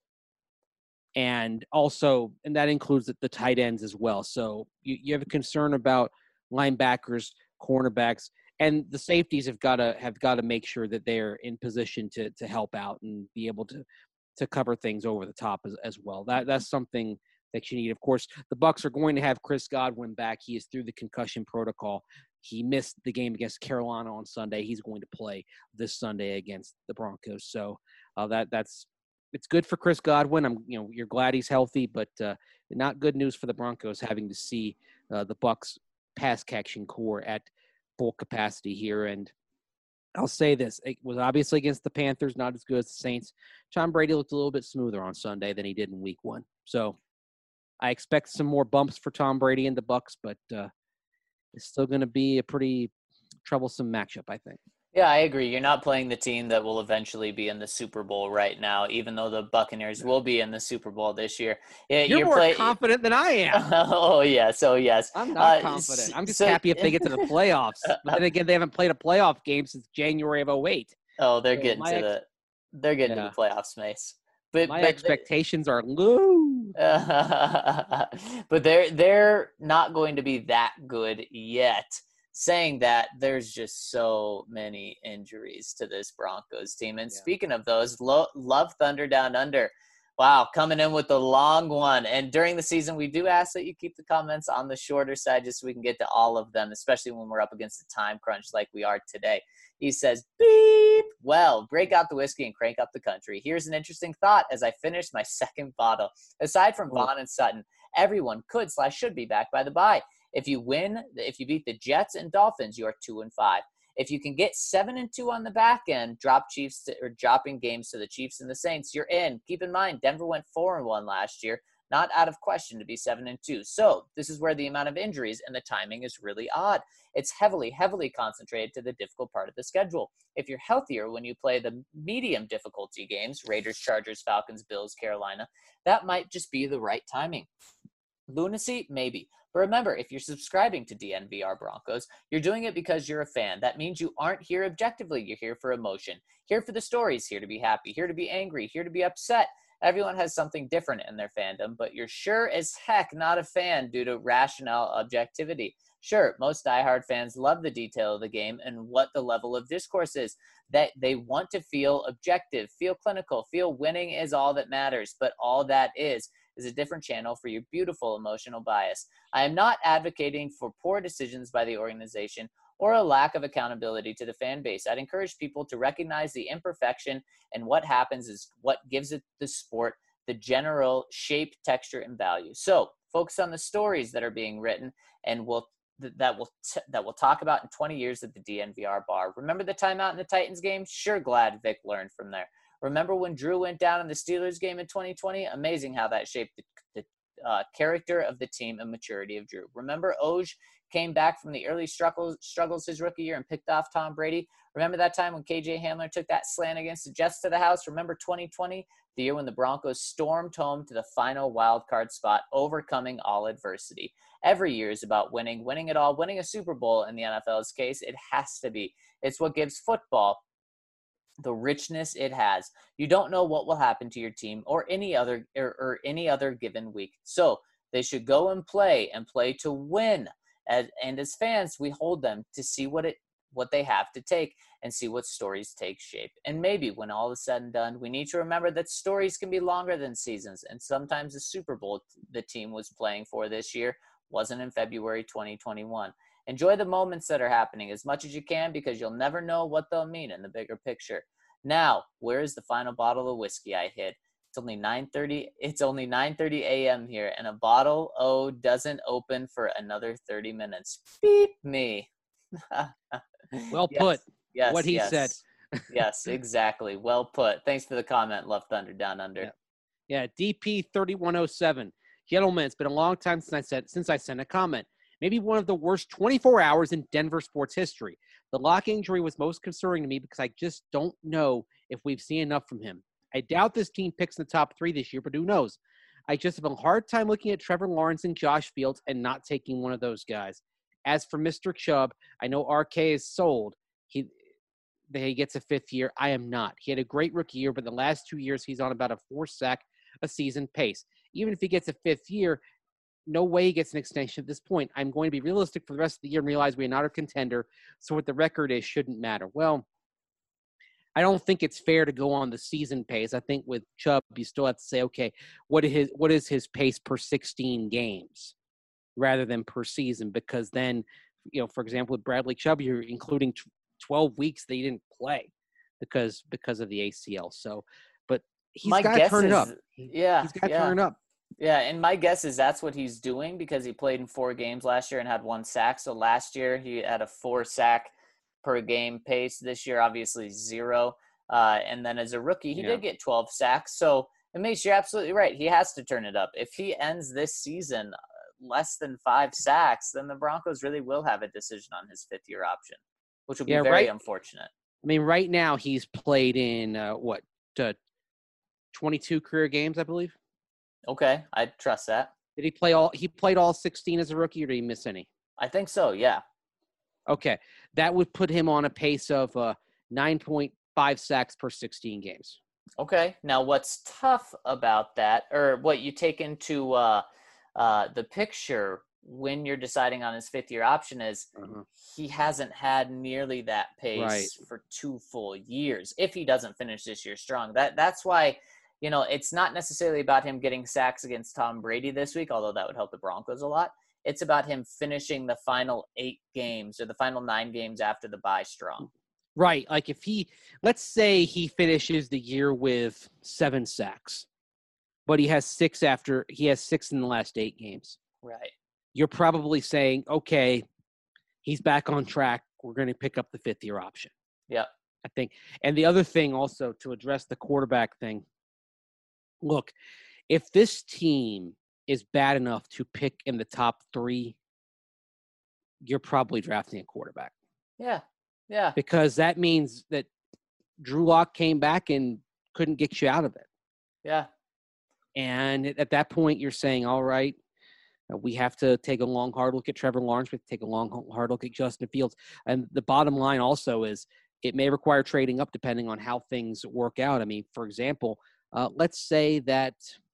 C: And that includes the tight ends as well. So you have a concern about linebackers, cornerbacks, and the safeties have got to make sure that they're in position to help out and be able to to cover things over the top as well. That's something that you need. Of course, the Bucs are going to have Chris Godwin back. He is through the concussion protocol. He missed the game against Carolina on Sunday. He's going to play this Sunday against the Broncos. So it's good for Chris Godwin. You're glad he's healthy, but not good news for the Broncos having to see the Bucs pass catching core at full capacity here. And I'll say this: it was obviously against the Panthers, not as good as the Saints. Tom Brady looked a little bit smoother on Sunday than he did in Week 1. So I expect some more bumps for Tom Brady and the Bucs, but it's still going to be a pretty troublesome matchup, I think.
A: Yeah, I agree. You're not playing the team that will eventually be in the Super Bowl right now, even though the Buccaneers will be in the Super Bowl this year.
C: You're more confident than I am.
A: Oh, yeah. So, yes.
C: I'm not confident. I'm just happy if they get to the playoffs. But then again, they haven't played a playoff game since January of 2008.
A: Oh, they're getting to the playoffs, Mace. But
C: expectations are low.
A: But they're not going to be that good yet. Saying that, there's just so many injuries to this Broncos team. And speaking of those, Love Thunder Down Under. Wow, coming in with the long one. And during the season, we do ask that you keep the comments on the shorter side just so we can get to all of them, especially when we're up against a time crunch like we are today. He says, beep. Well, break out the whiskey and crank up the country. Here's an interesting thought as I finish my second bottle. Aside from Vaughn and Sutton, everyone could/should be back by the bye. If you beat the Jets and Dolphins, you are 2-5. If you can get 7-2 on the back end, dropping games to the Chiefs and the Saints, you're in. Keep in mind, Denver went 4-1 last year. Not out of question to be 7-2. So this is where the amount of injuries and the timing is really odd. It's heavily, heavily concentrated to the difficult part of the schedule. If you're healthier when you play the medium difficulty games, Raiders, Chargers, Falcons, Bills, Carolina, that might just be the right timing. Lunacy? Maybe. But remember, if you're subscribing to DNVR Broncos, you're doing it because you're a fan. That means you aren't here objectively. You're here for emotion. Here for the stories. Here to be happy. Here to be angry. Here to be upset. Everyone has something different in their fandom, but you're sure as heck not a fan due to rational objectivity. Sure, most diehard fans love the detail of the game and what the level of discourse is. That they want to feel objective, feel clinical, feel winning is all that matters, but all that is a different channel for your beautiful emotional bias. I am not advocating for poor decisions by the organization or a lack of accountability to the fan base. I'd encourage people to recognize the imperfection, and what happens is what gives it the sport the general shape, texture, and value. So focus on the stories that are being written and that we'll talk about in 20 years at the DNVR bar. Remember the timeout in the Titans game? Sure glad Vic learned from there. Remember when Drew went down in the Steelers game in 2020? Amazing how that shaped the character of the team and maturity of Drew. Remember Oj came back from the early struggles his rookie year and picked off Tom Brady? Remember that time when KJ Hamler took that slant against the Jets to the house? Remember 2020, the year when the Broncos stormed home to the final wild card spot, overcoming all adversity? Every year is about winning it all, winning a Super Bowl in the NFL's case. It has to be. It's what gives football the richness it has. You don't know what will happen to your team or any other given week. So they should go and play to win. And as fans, we hold them to see what they have to take and see what stories take shape. And maybe when all is said and done, we need to remember that stories can be longer than seasons. And sometimes the Super Bowl the team was playing for this year wasn't in February 2021. Enjoy the moments that are happening as much as you can, because you'll never know what they'll mean in the bigger picture. Now, where is the final bottle of whiskey I hid? It's only 9:30. It's only 9:30 a.m. here, and a bottle doesn't open for another 30 minutes. Beep me.
C: Well put.
A: Yes.
C: What he said.
A: Yes, exactly. Well put. Thanks for the comment, Love Thunder Down Under.
C: Yeah. DP 3107. Gentlemen, it's been a long time since I sent a comment. Maybe one of the worst 24 hours in Denver sports history. The Locke injury was most concerning to me because I just don't know if we've seen enough from him. I doubt this team picks in the top 3 this year, but who knows? I just have a hard time looking at Trevor Lawrence and Josh Fields and not taking one of those guys. As for Mr. Chubb, I know RK is sold. He gets a 5th year. I am not. He had a great rookie year, but the last 2 years he's on about a 4-sack a season pace. Even if he gets a 5th year, no way he gets an extension at this point. I'm going to be realistic for the rest of the year and realize we are not a contender, so what the record is shouldn't matter. Well, I don't think it's fair to go on the season pace. I think with Chubb, you still have to say, okay, what is his pace per 16 games rather than per season? Because then, for example, with Bradley Chubb, you're including 12 weeks that he didn't play because of the ACL. So, but he's got to turn it up. He's got to turn it up.
A: Yeah, and my guess is that's what he's doing because he played in 4 games last year and had 1 sack. So last year he had a 4 sack per game pace. This year, obviously 0. And then as a rookie, he did get 12 sacks. So, Mace, you're absolutely right. He has to turn it up. If he ends this season less than 5 sacks, then the Broncos really will have a decision on his 5th-year option, which will be very unfortunate. I
C: mean, right now he's played in 22 career games, I believe.
A: Okay, I trust that.
C: Did he play all? He played all 16 as a rookie, or did he miss any?
A: I think so. Yeah.
C: Okay, that would put him on a pace of 9.5 sacks per 16 games.
A: Okay. Now, what's tough about that, or what you take into the picture when you're deciding on his 5th-year option is he hasn't had nearly that pace for 2 full years. If he doesn't finish this year strong, that's why. It's not necessarily about him getting sacks against Tom Brady this week, although that would help the Broncos a lot. It's about him finishing the final 8 games or the final 9 games after the bye strong.
C: Right. Like let's say he finishes the year with 7 sacks, but he has 6 in the last 8 games.
A: Right.
C: You're probably saying, okay, he's back on track. We're going to pick up the 5th-year option.
A: Yeah.
C: I think. And the other thing also to address the quarterback thing, look, if this team is bad enough to pick in the top 3, you're probably drafting a quarterback.
A: Yeah, yeah.
C: Because that means that Drew Lock came back and couldn't get you out of it.
A: Yeah.
C: And at that point, you're saying, all right, we have to take a long, hard look at Trevor Lawrence. We have to take a long, hard look at Justin Fields. And the bottom line also is it may require trading up depending on how things work out. I mean, for example, let's say the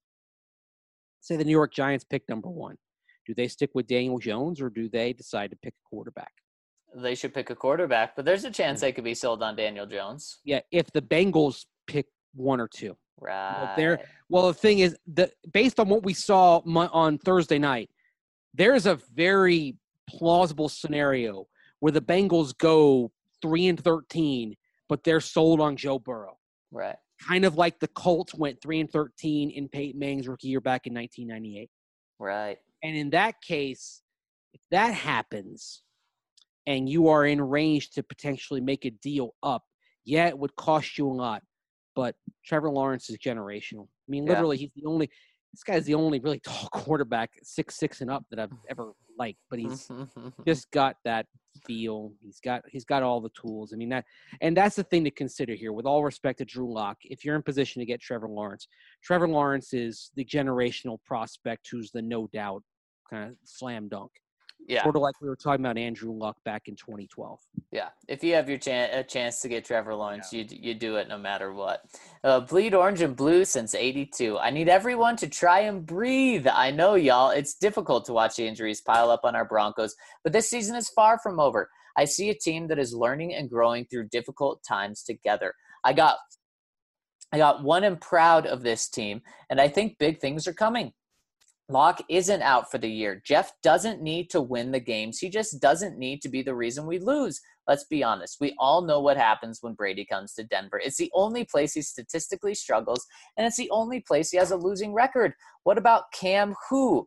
C: New York Giants pick number 1. Do they stick with Daniel Jones or do they decide to pick a quarterback?
A: They should pick a quarterback, but there's a chance they could be sold on Daniel Jones.
C: Yeah, if the Bengals pick 1 or 2.
A: Right.
C: Well, the thing is, based on what we saw on Thursday night, there's a very plausible scenario where the Bengals go 3-13, but they're sold on Joe Burrow.
A: Right.
C: Kind of like the Colts went 3-13 in Peyton Manning's rookie year back in 1998.
A: Right.
C: And in that case, if that happens and you are in range to potentially make a deal up, yeah, it would cost you a lot. But Trevor Lawrence is generational. I mean, literally, this guy's the only really tall quarterback, 6'6" and up that I've ever liked. But he's just got that feel. He's got all the tools. I mean, that's the thing to consider here. With all respect to Drew Lock, if you're in position to get Trevor Lawrence is the generational prospect who's the no doubt kind of slam dunk.
A: Yeah.
C: Sort of like we were talking about Andrew Luck back in 2012.
A: Yeah. If you have a chance to get Trevor Lawrence, you do it no matter what. Bleed orange and blue since 82. I need everyone to try and breathe. I know, y'all. It's difficult to watch the injuries pile up on our Broncos, but this season is far from over. I see a team that is learning and growing through difficult times together. I got one and proud of this team, and I think big things are coming. Locke isn't out for the year. Jeff doesn't need to win the games. He just doesn't need to be the reason we lose. Let's be honest. We all know what happens when Brady comes to Denver. It's the only place he statistically struggles, and it's the only place he has a losing record. What about Cam who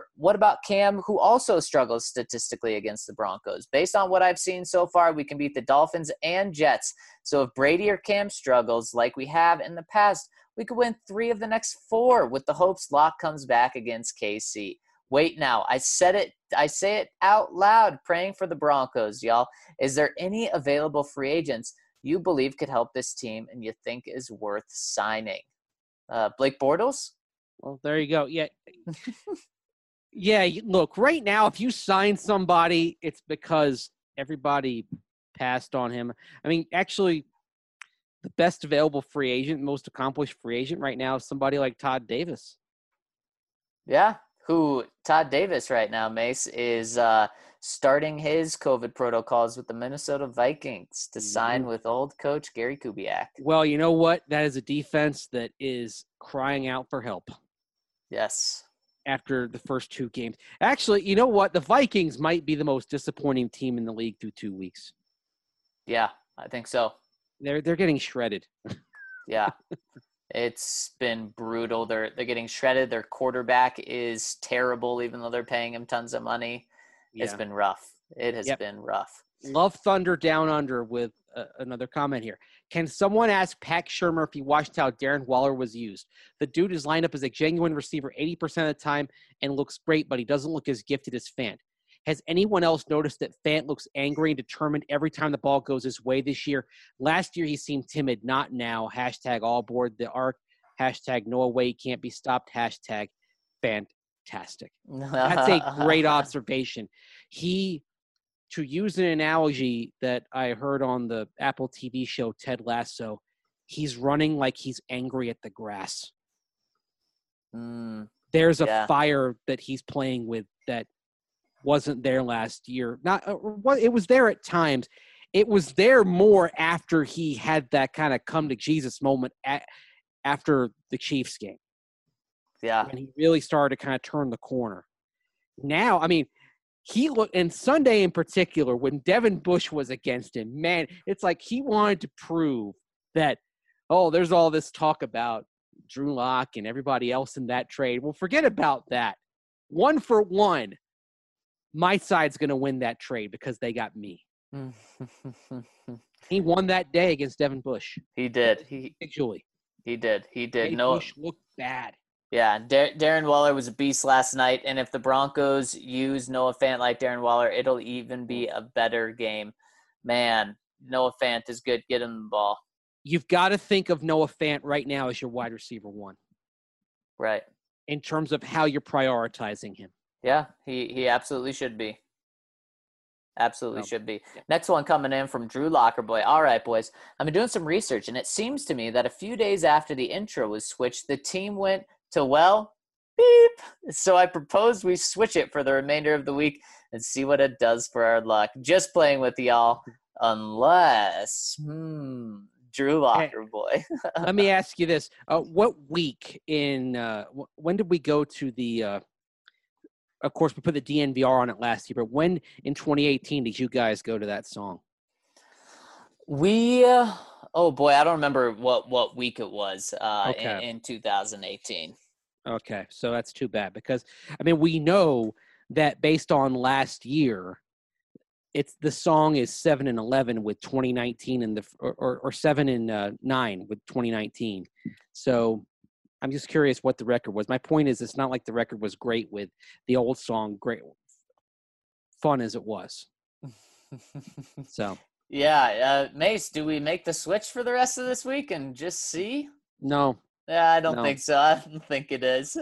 A: also struggles statistically against the Broncos? Based on what I've seen so far, we can beat the Dolphins and Jets. So if Brady or Cam struggles like we have in the past, we could win 3 of the next 4 with the hopes Locke comes back against KC. Wait now. I say it out loud, praying for the Broncos, y'all. Is there any available free agents you believe could help this team and you think is worth signing? Blake Bortles?
C: Well, there you go. Yeah. Yeah, look, right now, if you sign somebody, it's because everybody passed on him. I mean, actually, the best available free agent, most accomplished free agent right now is somebody like Todd Davis.
A: Yeah, who Todd Davis right now, Mace, is starting his COVID protocols with the Minnesota Vikings to sign with old coach Gary Kubiak.
C: Well, you know what? That is a defense that is crying out for help.
A: Yes.
C: After the first 2 games. Actually, you know what? The Vikings might be the most disappointing team in the league through 2 weeks.
A: Yeah, I think so.
C: They're getting shredded.
A: Yeah. It's been brutal. They're getting shredded. Their quarterback is terrible, even though they're paying him tons of money.
C: Yeah.
A: It's been rough. It has been rough.
C: Love Thunder Down Under with another comment here. Can someone ask Pat Shermer if he watched how Darren Waller was used? The dude is lined up as a genuine receiver 80% of the time and looks great, but he doesn't look as gifted as Fant. Has anyone else noticed that Fant looks angry and determined every time the ball goes his way this year? Last year he seemed timid, not now. Hashtag all aboard the arc. Hashtag no way can't be stopped. Hashtag fantastic. That's a great observation. To use an analogy that I heard on the Apple TV show Ted Lasso, he's running like he's angry at the grass. There's a fire that he's playing with that wasn't there last year. It was there at times. It was there more after he had that kind of come to Jesus moment after the Chiefs game.
A: Yeah.
C: When he really started to kind of turn the corner. Now, I mean, he looked, and Sunday in particular, when Devin Bush was against him, man, it's like he wanted to prove that, there's all this talk about Drew Lock and everybody else in that trade. Well, forget about that. 1 for 1, my side's going to win that trade because they got me. He won that day against Devin Bush.
A: He did.
C: Individually.
A: He did.
C: Bush looked bad.
A: Yeah, Darren Waller was a beast last night, and if the Broncos use Noah Fant like Darren Waller, it'll even be a better game. Man, Noah Fant is good. Get him the ball.
C: You've got to think of Noah Fant right now as your wide receiver 1.
A: Right.
C: In terms of how you're prioritizing him.
A: Yeah, he absolutely should be. Absolutely should be. Next one coming in from Drew Lockerboy. All right, boys. I've been doing some research, and it seems to me that a few days after the intro was switched, the team went to, beep. So I proposed we switch it for the remainder of the week and see what it does for our luck. Just playing with y'all, unless, Drew Lockerboy.
C: Let me ask you this. What week when did we go to the of course, we put the DNVR on it last year, but when in 2018 did you guys go to that song?
A: We, I don't remember what week it was in 2018.
C: Okay, so that's too bad because, I mean, we know that based on last year, the song is 7-11 with 2019 or 7-9 with 2019. So I'm just curious what the record was. My point is, it's not like the record was great with the old song, great fun as it was. So.
A: Yeah, Mace, do we make the switch for the rest of this week and just see?
C: No.
A: Yeah, I don't think so. I don't think it is.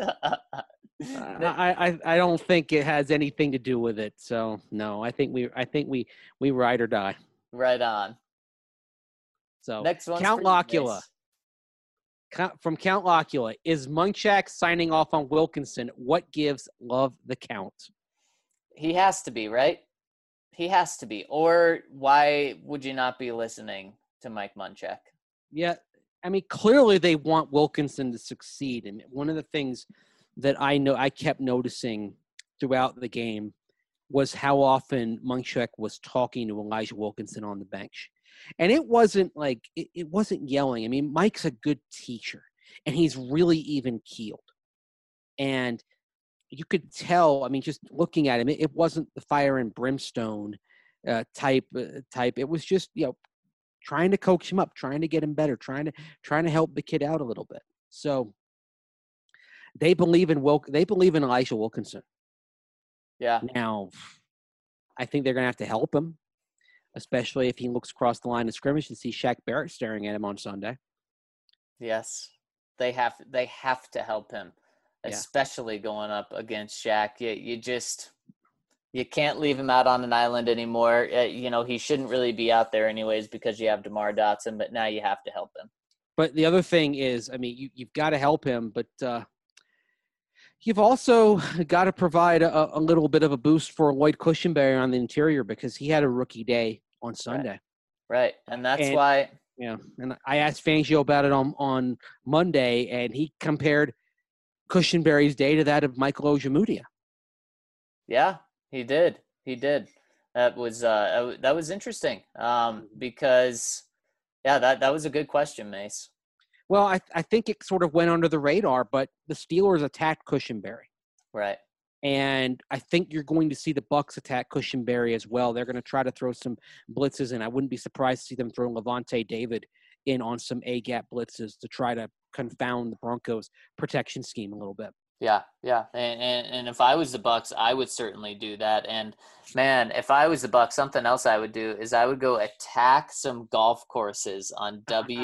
C: I don't think it has anything to do with it. So no, I think we ride or die.
A: Right on.
C: So
A: next one,
C: Count Locula. From Count Locula, is Munchak signing off on Wilkinson? What gives Love the count?
A: He has to be, right? He has to be. Or why would you not be listening to Mike Munchak?
C: Yeah, I mean, clearly they want Wilkinson to succeed. And one of the things that I kept noticing throughout the game was how often Munchak was talking to Elijah Wilkinson on the bench. And it wasn't like it wasn't yelling. I mean, Mike's a good teacher, and he's really even keeled. And you could tell. I mean, just looking at him, it wasn't the fire and brimstone type. It was just trying to coax him up, trying to get him better, trying to help the kid out a little bit. So they believe in Elijah Wilkinson.
A: Yeah.
C: Now, I think they're going to have to help him, especially if he looks across the line of scrimmage and sees Shaq Barrett staring at him on Sunday.
A: Yes, they have to help him, especially going up against Shaq. You can't leave him out on an island anymore. He shouldn't really be out there anyways because you have DeMar Dotson, but now you have to help him.
C: But the other thing is, I mean, you've got to help him, but You've also got to provide a little bit of a boost for Lloyd Cushenberry on the interior because he had a rookie day on
A: Right.
C: Sunday.
A: Right. And that's
C: And
A: why.
C: yeah, and I asked Fangio about it on Monday, and he compared Cushenberry's day to that of Michael Ojemudia.
A: Yeah, he did. He did. That was interesting. Because that was a good question, Mace.
C: Well, I think it sort of went under the radar, but the Steelers attacked Cushenberry.
A: Right.
C: And I think you're going to see the Bucs attack Cushenberry as well. They're going to try to throw some blitzes, and I wouldn't be surprised to see them throw Levante David in on some A-gap blitzes to try to confound the Broncos' protection scheme a little bit.
A: Yeah, and if I was the Bucs, I would certainly do that. And man, if I was the Bucs, something else I would do is I would go attack some golf courses on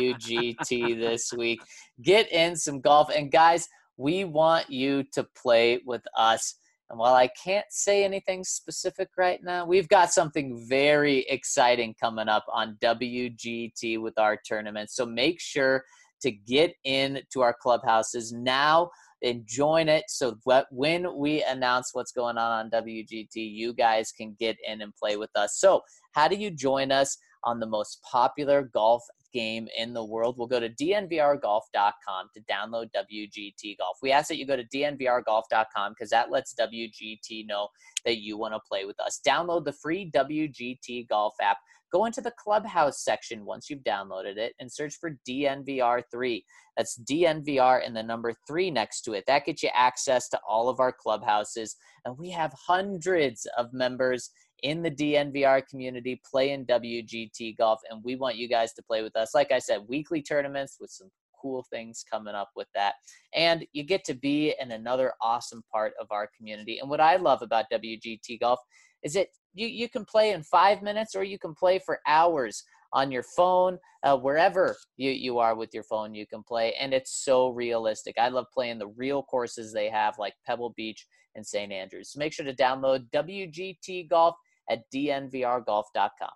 A: WGT this week. Get in some golf, and guys, we want you to play with us. And while I can't say anything specific right now, we've got something very exciting coming up on WGT with our tournament. So make sure to get into our clubhouses now and join it so that when we announce what's going on WGT, you guys can get in and play with us. So how do you join us on the most popular golf game in the world? We'll go to dnvrgolf.com to download WGT Golf. We ask that you go to dnvrgolf.com because that lets WGT know that you want to play with us. Download the free WGT Golf app. Go into the Clubhouse section once you've downloaded it and search for DNVR3. That's DNVR and the number 3 next to it. That gets you access to all of our clubhouses. And we have hundreds of members in the DNVR community playing WGT golf, and we want you guys to play with us. Like I said, weekly tournaments with some cool things coming up with that. And you get to be in another awesome part of our community. And what I love about WGT golf is that you can play in 5 minutes or you can play for hours on your phone, wherever you are with your phone, you can play. And it's so realistic. I love playing the real courses they have like Pebble Beach and St. Andrews. So make sure to download WGT Golf at dnvrgolf.com.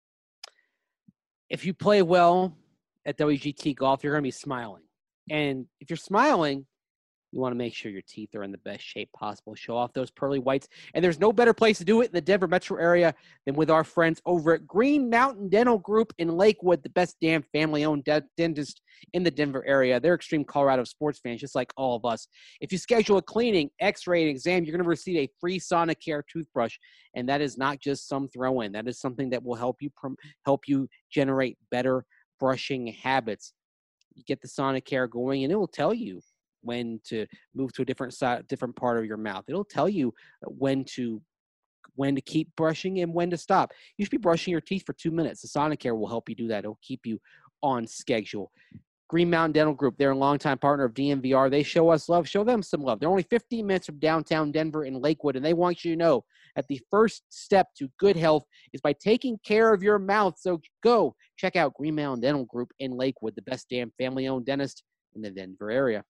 C: If you play well at WGT Golf, you're going to be smiling. And if you're smiling, you want to make sure your teeth are in the best shape possible. Show off those pearly whites. And there's no better place to do it in the Denver metro area than with our friends over at Green Mountain Dental Group in Lakewood, the best damn family-owned dentist in the Denver area. They're extreme Colorado sports fans, just like all of us. If you schedule a cleaning, x-ray, and exam, you're going to receive a free Sonicare toothbrush. And that is not just some throw-in. That is something that will help you generate better brushing habits. You get the Sonicare going, and it will tell you when to move to a different part of your mouth. It'll tell you when to keep brushing and when to stop. You should be brushing your teeth for 2 minutes. The Sonicare will help you do that. It'll keep you on schedule. Green Mountain Dental Group, they're a longtime partner of DNVR. They show us love. Show them some love. They're only 15 minutes from downtown Denver in Lakewood, and they want you to know that the first step to good health is by taking care of your mouth. So go check out Green Mountain Dental Group in Lakewood, the best damn family-owned dentist in the Denver area.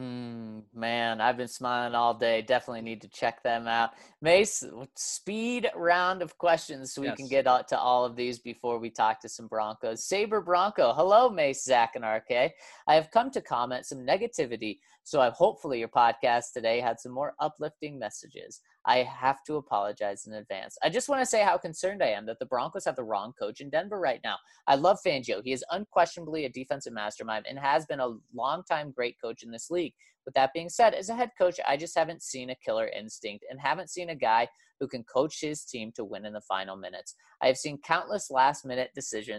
A: Man, I've been smiling all day. Definitely need to check them out. Mace, speed round of questions so we can get out to all of these before we talk to some Broncos. Saber Bronco, hello, Mace, Zach, and RK. I have come to comment some negativity, so hopefully your podcast today had some more uplifting messages. I have to apologize in advance. I just want to say how concerned I am that the Broncos have the wrong coach in Denver right now. I love Fangio. He is unquestionably a defensive mastermind and has been a longtime great coach in this league. With that being said, as a head coach, I just haven't seen a killer instinct and haven't seen a guy who can coach his team to win in the final minutes. I have seen countless last-minute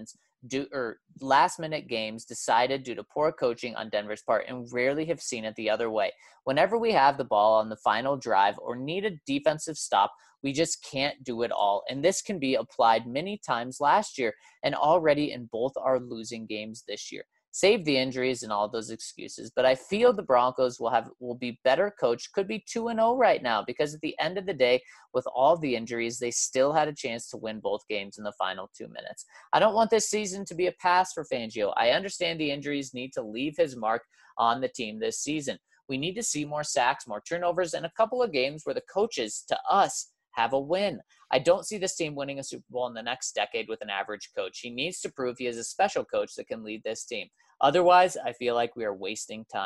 A: games decided due to poor coaching on Denver's part and rarely have seen it the other way. Whenever we have the ball on the final drive or need a defensive stop, we just can't do it all. And this can be applied many times last year and already in both our losing games this year. Save the injuries and all those excuses, but I feel the Broncos will be better coached, could be 2-0 right now, because at the end of the day, with all the injuries, they still had a chance to win both games in the final 2 minutes. I don't want this season to be a pass for Fangio. I understand the injuries need to leave his mark on the team this season. We need to see more sacks, more turnovers, and a couple of games where the coaches, to us, have a win. I don't see this team winning a Super Bowl in the next decade with an average coach. He needs to prove he is a special coach that can lead this team. Otherwise, I feel like we are wasting time.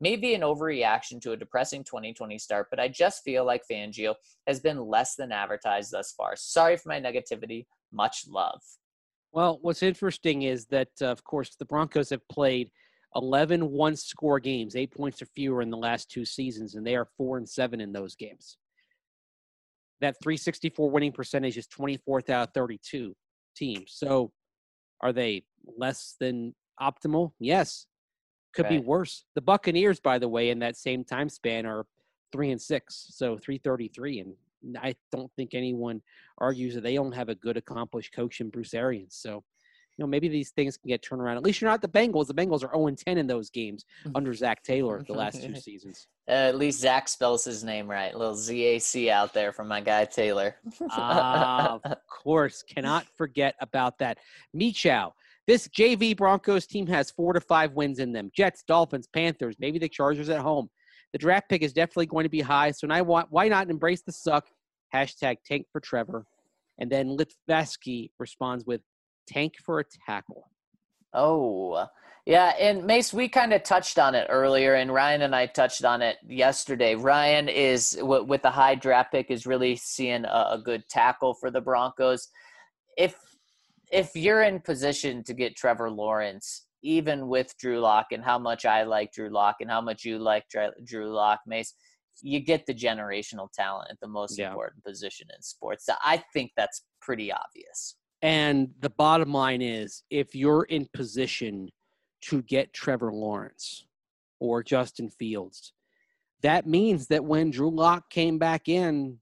A: Maybe an overreaction to a depressing 2020 start, but I just feel like Fangio has been less than advertised thus far. Sorry for my negativity. Much love.
C: Well, what's interesting is that, of course, the Broncos have played 11 one-score games, 8 points or fewer in the last 2 seasons, and they are 4-7 in those games. That .364 winning percentage is 24th out of 32 teams. So are they less than optimal? Yes. Could be worse. The Buccaneers, by the way, in that same time span are 3-6, so 333, and I don't think anyone argues that they don't have a good, accomplished coach in Bruce Arians. So, maybe these things can get turned around. At least you're not the Bengals. The Bengals are 0-10 in those games under Zach Taylor the last 2 seasons.
A: At least Zach spells his name right. A little ZAC out there from my guy Taylor.
C: Of course. Cannot forget about that. Michow. This JV Broncos team has 4 to 5 wins in them. Jets, Dolphins, Panthers, maybe the Chargers at home. The draft pick is definitely going to be high, so why not embrace the suck? Hashtag tank for Trevor. And then Litvesky responds with tank for a tackle.
A: Oh, yeah. And Mace, we kind of touched on it earlier, and Ryan and I touched on it yesterday. Ryan is, with the high draft pick, is really seeing a good tackle for the Broncos. If you're in position to get Trevor Lawrence, even with Drew Lock and how much I like Drew Lock and how much you like Drew Lock, Mace, you get the generational talent at the most important position in sports. So I think that's pretty obvious.
C: And the bottom line is, if you're in position to get Trevor Lawrence or Justin Fields, that means that when Drew Lock came back in,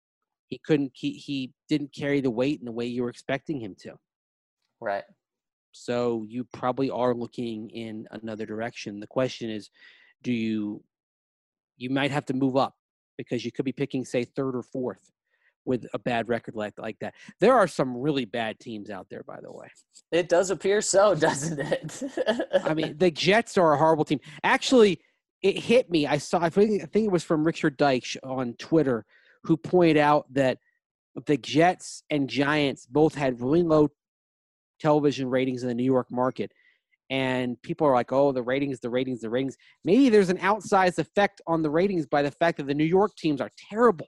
C: he didn't carry the weight in the way you were expecting him to.
A: Right.
C: So you probably are looking in another direction. The question is, you might have to move up because you could be picking, say, 3rd or 4th with a bad record like that. There are some really bad teams out there, by the way.
A: It does appear so, doesn't it?
C: I mean, the Jets are a horrible team. Actually, it hit me. I think it was from Richard Deitch on Twitter, who pointed out that the Jets and Giants both had really low television ratings in the New York market. And people are like, oh, the ratings. Maybe there's an outsized effect on the ratings by the fact that the New York teams are terrible.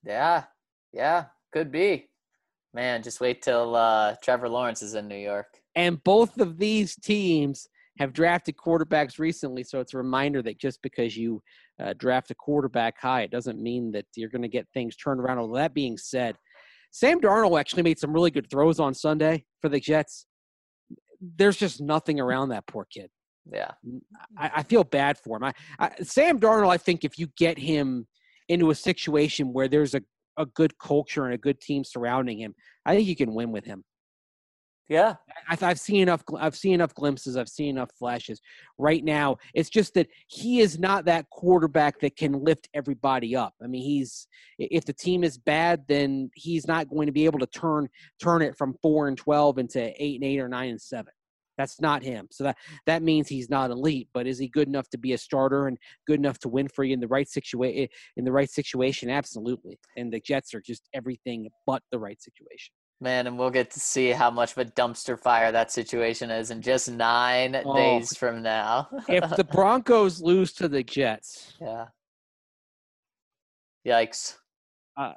A: Yeah, could be. Man, just wait till Trevor Lawrence is in New York.
C: And both of these teams have drafted quarterbacks recently, so it's a reminder that just because you draft a quarterback high, it doesn't mean that you're going to get things turned around. Although that being said, Sam Darnold actually made some really good throws on Sunday for the Jets. There's just nothing around that poor kid.
A: Yeah.
C: I feel bad for him. Sam Darnold, I think if you get him into a situation where there's a good culture and a good team surrounding him, I think you can win with him.
A: Yeah.
C: I've seen enough glimpses. I've seen enough flashes. Right now, it's just that he is not that quarterback that can lift everybody up. I mean, if the team is bad, then he's not going to be able to turn it from 4-12 into 8-8 or 9-7. That's not him. So that means he's not elite. But is he good enough to be a starter and good enough to win for you in the right situation? Absolutely. And the Jets are just everything but the right situation.
A: Man, and we'll get to see how much of a dumpster fire that situation is in just 9 days from now.
C: If the Broncos lose to the Jets.
A: Yeah. Yikes.
C: I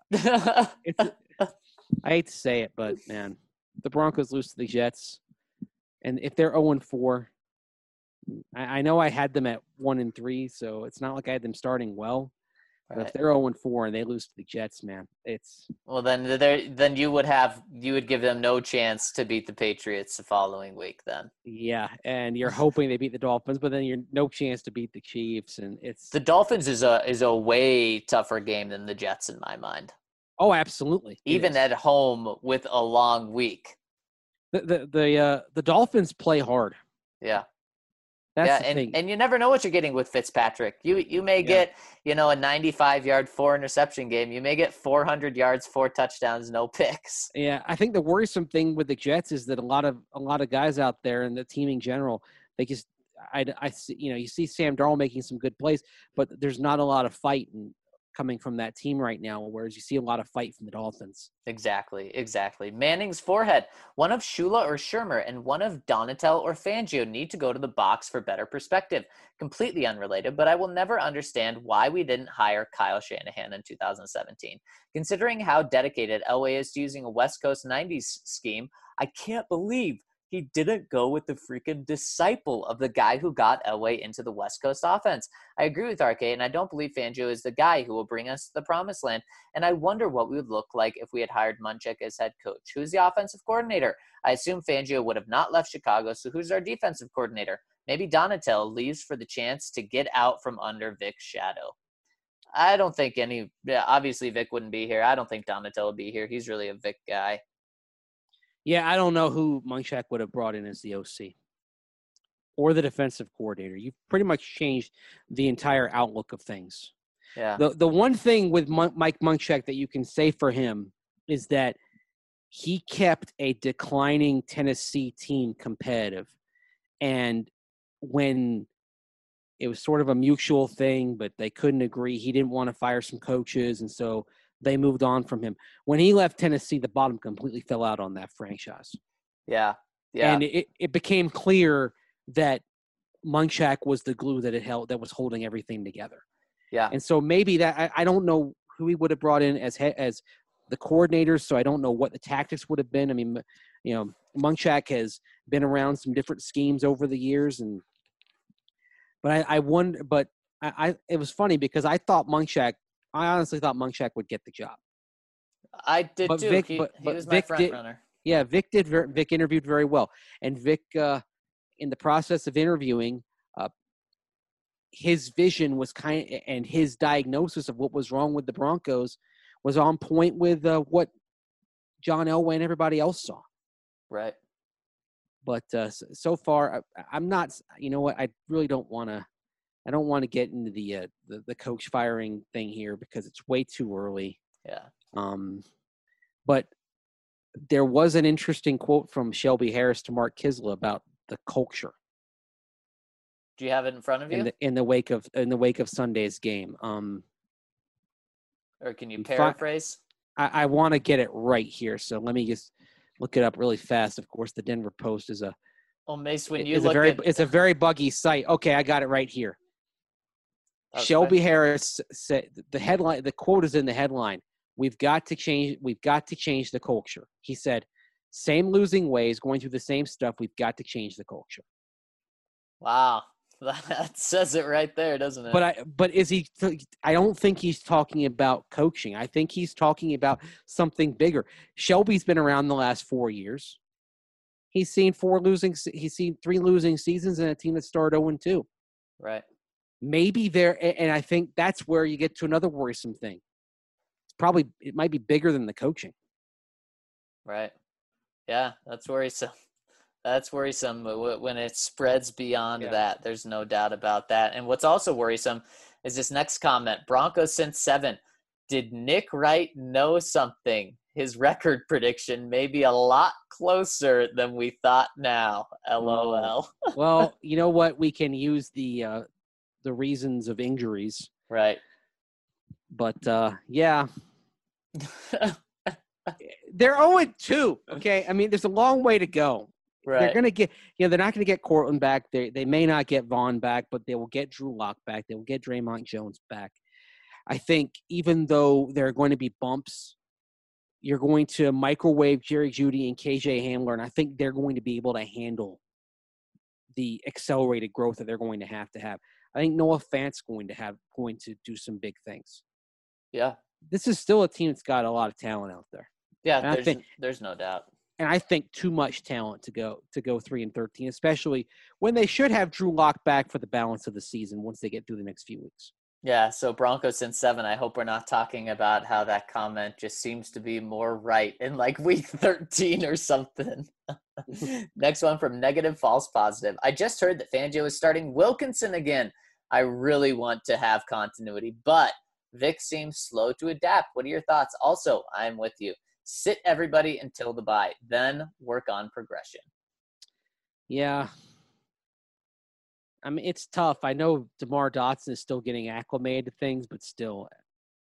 C: hate to say it, but, man, the Broncos lose to the Jets. And if they're 0-4, I know I had them at 1-3, so it's not like I had them starting well. But if they're 0-4 and they lose to the Jets, man, it's
A: then you would give them no chance to beat the Patriots the following week. Then
C: and you're hoping they beat the Dolphins, but then you're no chance to beat the Chiefs, and it's
A: the Dolphins is a way tougher game than the Jets in my mind.
C: Oh, absolutely,
A: even at home with a long week.
C: The Dolphins play hard.
A: Yeah.
C: That's the thing.
A: And you never know what you're getting with Fitzpatrick. You may get, a 95-yard, 4-interception game. You may get 400 yards, 4 touchdowns, no picks.
C: Yeah, I think the worrisome thing with the Jets is that a lot of guys out there and the team in general, they just you see Sam Darnold making some good plays, but there's not a lot of fight. And coming from that team right now, whereas you see a lot of fight from the Dolphins.
A: Exactly. Manning's forehead. One of Shula or Shermer and one of Donatel or Fangio need to go to the box for better perspective. Completely unrelated, but I will never understand why we didn't hire Kyle Shanahan in 2017. Considering how dedicated Elway is to using a West Coast 90s scheme, I can't believe he didn't go with the freaking disciple of the guy who got Elway into the West Coast offense. I agree with RK, and I don't believe Fangio is the guy who will bring us to the promised land. And I wonder what we would look like if we had hired Munchak as head coach. Who's the offensive coordinator? I assume Fangio would have not left Chicago, so who's our defensive coordinator? Maybe Donatel leaves for the chance to get out from under Vic's shadow. I don't think obviously Vic wouldn't be here. I don't think Donatel would be here. He's really a Vic guy.
C: Yeah, I don't know who Munchak would have brought in as the OC or the defensive coordinator. You've pretty much changed the entire outlook of things.
A: Yeah.
C: The one thing with Mike Munchak that you can say for him is that he kept a declining Tennessee team competitive. And when it was sort of a mutual thing, but they couldn't agree, he didn't want to fire some coaches, and so they moved on from him. When he left Tennessee, the bottom completely fell out on that franchise.
A: Yeah.
C: And it became clear that Munchak was the glue that was holding everything together.
A: Yeah.
C: And so maybe that I don't know who he would have brought in as the coordinators, so I don't know what the tactics would have been. I mean, Munchak has been around some different schemes over the years, but I wonder. But it was funny because I honestly thought Munchak would get the job.
A: I did too.
C: Vic,
A: he was
C: Vic
A: my front runner.
C: Yeah, Vic interviewed very well, and Vic, in the process of interviewing, his vision was and his diagnosis of what was wrong with the Broncos was on point with what John Elway and everybody else saw.
A: Right.
C: But so far, I'm not. You know what? I really don't want to. I don't want to get into the coach firing thing here because it's way too early.
A: Yeah.
C: But there was an interesting quote from Shelby Harris to Mark Kisla about the culture.
A: Do you have it in front of you?
C: In the wake of Sunday's game.
A: Or can you paraphrase?
C: I want to get it right here, so let me just look it up really fast. Of course, the Denver Post is a.
A: Well, Mace,
C: it's a very buggy site. Okay, I got it right here. Shelby Harris said the headline. The quote is in the headline. We've got to change the culture. He said, "Same losing ways, going through the same stuff. We've got to change the culture."
A: Wow. That says it right there, doesn't it?
C: But is he? I don't think he's talking about coaching. I think he's talking about something bigger. Shelby's been around the last 4 years. He's seen 3 losing seasons in a team that started 0-2.
A: Right.
C: Maybe and I think that's where you get to another worrisome thing. It might be bigger than the coaching.
A: Right. Yeah, that's worrisome. That's worrisome when it spreads beyond that. There's no doubt about that. And what's also worrisome is this next comment. Broncos since 7. Did Nick Wright know something? His record prediction may be a lot closer than we thought now. LOL.
C: Well, you know what? We can use the reasons of injuries.
A: Right.
C: But, yeah. They're 0-2, okay? I mean, there's a long way to go.
A: Right.
C: They're going to get, they're not going to get Cortland back. They may not get Vaughn back, but they will get Drew Lock back. They will get Draymond Jones back. I think even though there are going to be bumps, you're going to microwave Jerry Jeudy and KJ Hamler, and I think they're going to be able to handle the accelerated growth that they're going to have. I think Noah Fant's going to do some big things.
A: Yeah.
C: This is still a team that's got a lot of talent out there.
A: Yeah, there's no doubt.
C: And I think too much talent to go 3-13, especially when they should have Drew Lock back for the balance of the season once they get through the next few weeks.
A: Yeah, so Broncos since 7. I hope we're not talking about how that comment just seems to be more right in like week 13 or something. Next one from Negative False Positive. I just heard that Fangio is starting Wilkinson again. I really want to have continuity, but Vic seems slow to adapt. What are your thoughts? Also, I'm with you. Sit everybody until the bye, then work on progression.
C: Yeah. I mean, it's tough. I know DeMar Dotson is still getting acclimated to things, but still,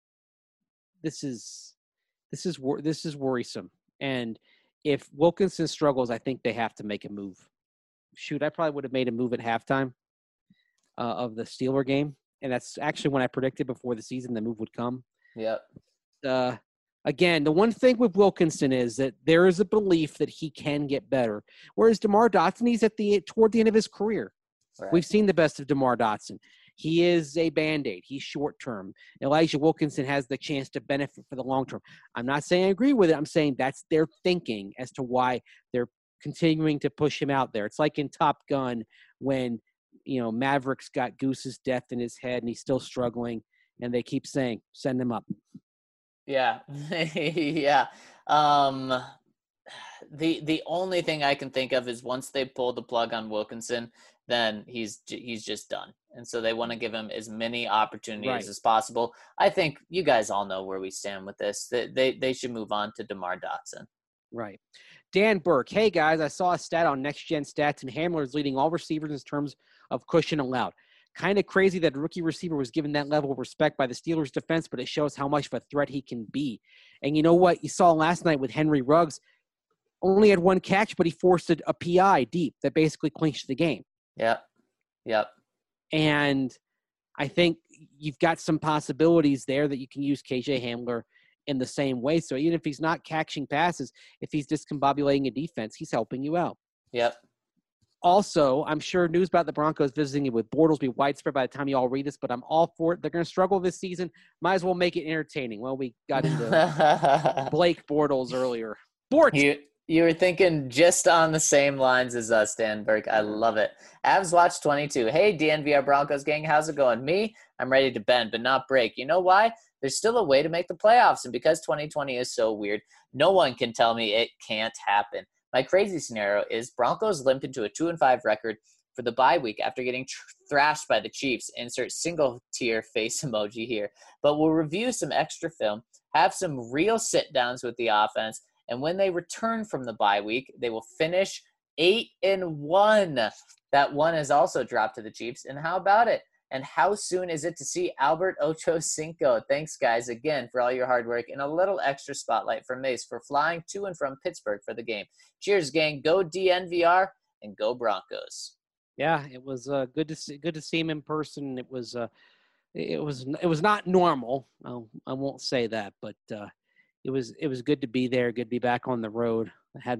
C: this is worrisome. And if Wilkinson struggles, I think they have to make a move. Shoot, I probably would have made a move at halftime of the Steeler game, and that's actually when I predicted before the season the move would come.
A: Yep.
C: Again, the one thing with Wilkinson is that there is a belief that he can get better, whereas DeMar Dotson, he's toward the end of his career.
A: Right.
C: We've seen the best of DeMar Dotson. He is a Band-Aid. He's short-term. Elijah Wilkinson has the chance to benefit for the long term. I'm not saying I agree with it. I'm saying that's their thinking as to why they're continuing to push him out there. It's like in Top Gun when, Maverick's got Goose's death in his head and he's still struggling, and they keep saying, send him up.
A: Yeah. Yeah. The only thing I can think of is once they pull the plug on Wilkinson, then he's just done. And so they want to give him as many opportunities as possible. I think you guys all know where we stand with this. They should move on to DeMar Dotson.
C: Right. Dan Burke, hey guys, I saw a stat on Next Gen Stats and Hamler is leading all receivers in terms of cushion allowed. Kind of crazy that a rookie receiver was given that level of respect by the Steelers defense, but it shows how much of a threat he can be. And you know what? You saw last night with Henry Ruggs, only had one catch, but he forced a PI deep that basically clinched the game.
A: Yep.
C: And I think you've got some possibilities there that you can use KJ Hamler in the same way. So even if he's not catching passes, if he's discombobulating a defense, he's helping you out.
A: Yep.
C: Also, I'm sure news about the Broncos visiting with Bortles will be widespread by the time you all read this, but I'm all for it. They're going to struggle this season. Might as well make it entertaining. Well, we got into Blake Bortles earlier.
A: You were thinking just on the same lines as us, Dan Burke. I love it. Avs Watch 22. Hey, DNVR Broncos gang, how's it going? Me, I'm ready to bend, but not break. You know why? There's still a way to make the playoffs, and because 2020 is so weird, no one can tell me it can't happen. My crazy scenario is Broncos limp into a 2-5 record for the bye week after getting thrashed by the Chiefs. Insert single tier face emoji here. But we'll review some extra film, have some real sit-downs with the offense, and when they return from the bye week, they will finish 8-1. That one is also dropped to the Chiefs. And how about it? And how soon is it to see Albert Ocho Cinco? Thanks, guys, again, for all your hard work and a little extra spotlight from Mace for flying to and from Pittsburgh for the game. Cheers, gang. Go DNVR and go Broncos.
C: Yeah, it was good to see him in person. It was not normal. I won't say that, but it was good to be there. Good to be back on the road. I had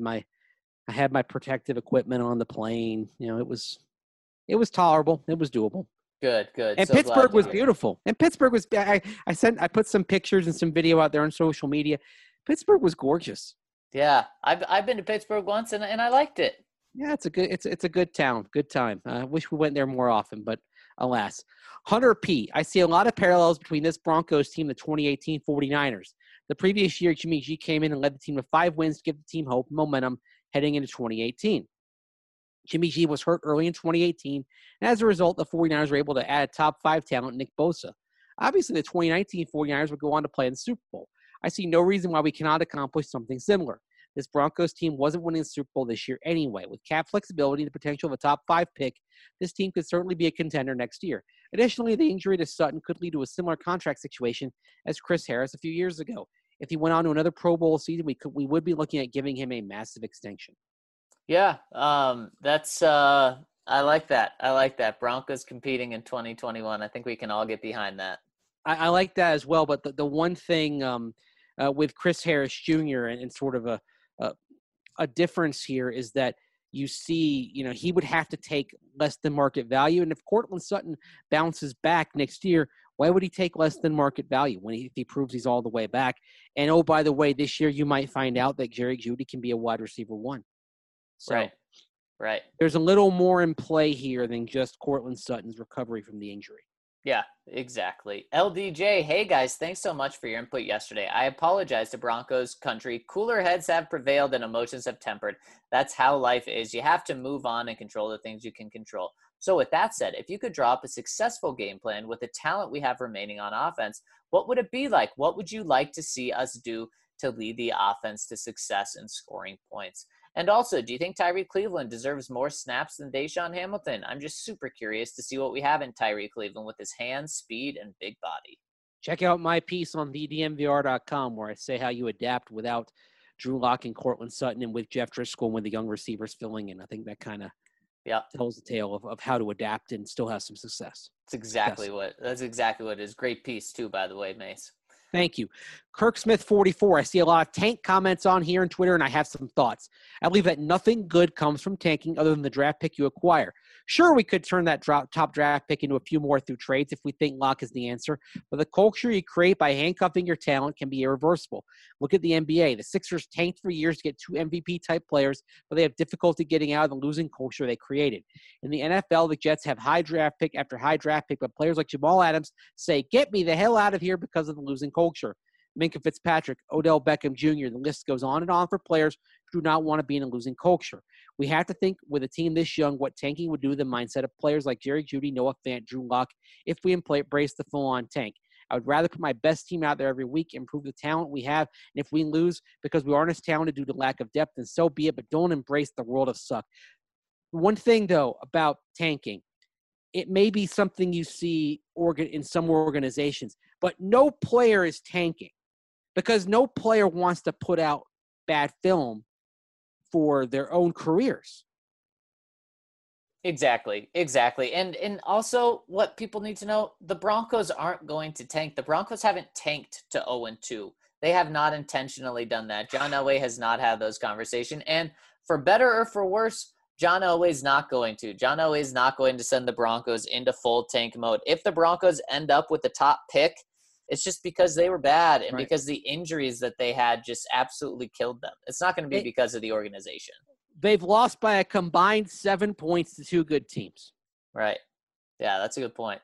C: my protective equipment on the plane. It was tolerable. It was doable.
A: Good.
C: And so Pittsburgh was beautiful. And Pittsburgh was. I put some pictures and some video out there on social media. Pittsburgh was gorgeous.
A: Yeah, I've been to Pittsburgh once and I liked it.
C: Yeah, it's a good town. Good time. I wish we went there more often, but alas. Hunter P. I see a lot of parallels between this Broncos team and the 2018 49ers. The previous year, Jimmy G came in and led the team to 5 wins to give the team hope and momentum heading into 2018. Jimmy G was hurt early in 2018, and as a result, the 49ers were able to add a top 5 talent, Nick Bosa. Obviously, the 2019 49ers would go on to play in the Super Bowl. I see no reason why we cannot accomplish something similar. This Broncos team wasn't winning the Super Bowl this year anyway. With cap flexibility and the potential of a top 5 pick, this team could certainly be a contender next year. Additionally, the injury to Sutton could lead to a similar contract situation as Chris Harris a few years ago. If he went on to another Pro Bowl season, we would be looking at giving him a massive extension.
A: Yeah, that's I like that. I like that. Broncos competing in 2021. I think we can all get behind that.
C: I like that as well. But the one thing with Chris Harris Jr. and sort of a difference here is that you see, he would have to take less than market value. And if Courtland Sutton bounces back next year, why would he take less than market value if he proves he's all the way back? And, oh, by the way, this year you might find out that Jerry Jeudy can be a wide receiver 1. So
A: Right.
C: There's a little more in play here than just Courtland Sutton's recovery from the injury.
A: Yeah, exactly. LDJ, hey guys, thanks so much for your input yesterday. I apologize to Broncos country. Cooler heads have prevailed and emotions have tempered. That's how life is. You have to move on and control the things you can control. So with that said, if you could draw up a successful game plan with the talent we have remaining on offense, what would it be like? What would you like to see us do to lead the offense to success and scoring points? And also, do you think Tyree Cleveland deserves more snaps than Deshaun Hamilton? I'm just super curious to see what we have in Tyree Cleveland with his hands, speed, and big body.
C: Check out my piece on thedmvr.com where I say how you adapt without Drew Lock and Cortland Sutton and with Jeff Driscoll and with the young receivers filling in. I think that kind of tells the tale of how to adapt and still have some success.
A: That's exactly what it is. Great piece too, by the way, Mace.
C: Thank you. Kirk Smith 44. I see a lot of tank comments on here on Twitter, and I have some thoughts. I believe that nothing good comes from tanking other than the draft pick you acquire. Sure, we could turn that top draft pick into a few more through trades if we think Locke is the answer, but the culture you create by handcuffing your talent can be irreversible. Look at the NBA. The Sixers tanked for years to get 2 MVP-type players, but they have difficulty getting out of the losing culture they created. In the NFL, the Jets have high draft pick after high draft pick, but players like Jamal Adams say, get me the hell out of here because of the losing culture. Minkah Fitzpatrick, Odell Beckham Jr., the list goes on and on for players who do not want to be in a losing culture. We have to think with a team this young what tanking would do to the mindset of players like Jerry Jeudy, Noah Fant, Drew Lock if we embrace the full-on tank. I would rather put my best team out there every week, improve the talent we have, and if we lose because we aren't as talented due to lack of depth, then so be it, but don't embrace the world of suck. One thing, though, about tanking, it may be something you see in some organizations, but no player is tanking because no player wants to put out bad film for their own careers.
A: Exactly. And also what people need to know, the Broncos aren't going to tank. The Broncos haven't tanked to 0-2. They have not intentionally done that. John Elway has not had those conversations. And for better or for worse, John Elway's not going to. John Elway's not going to send the Broncos into full tank mode. If the Broncos end up with the top pick, it's just because they were bad and because the injuries that they had just absolutely killed them. It's not going to be because of the organization.
C: They've lost by a combined 7 points to 2 good teams.
A: Right. Yeah, that's a good point.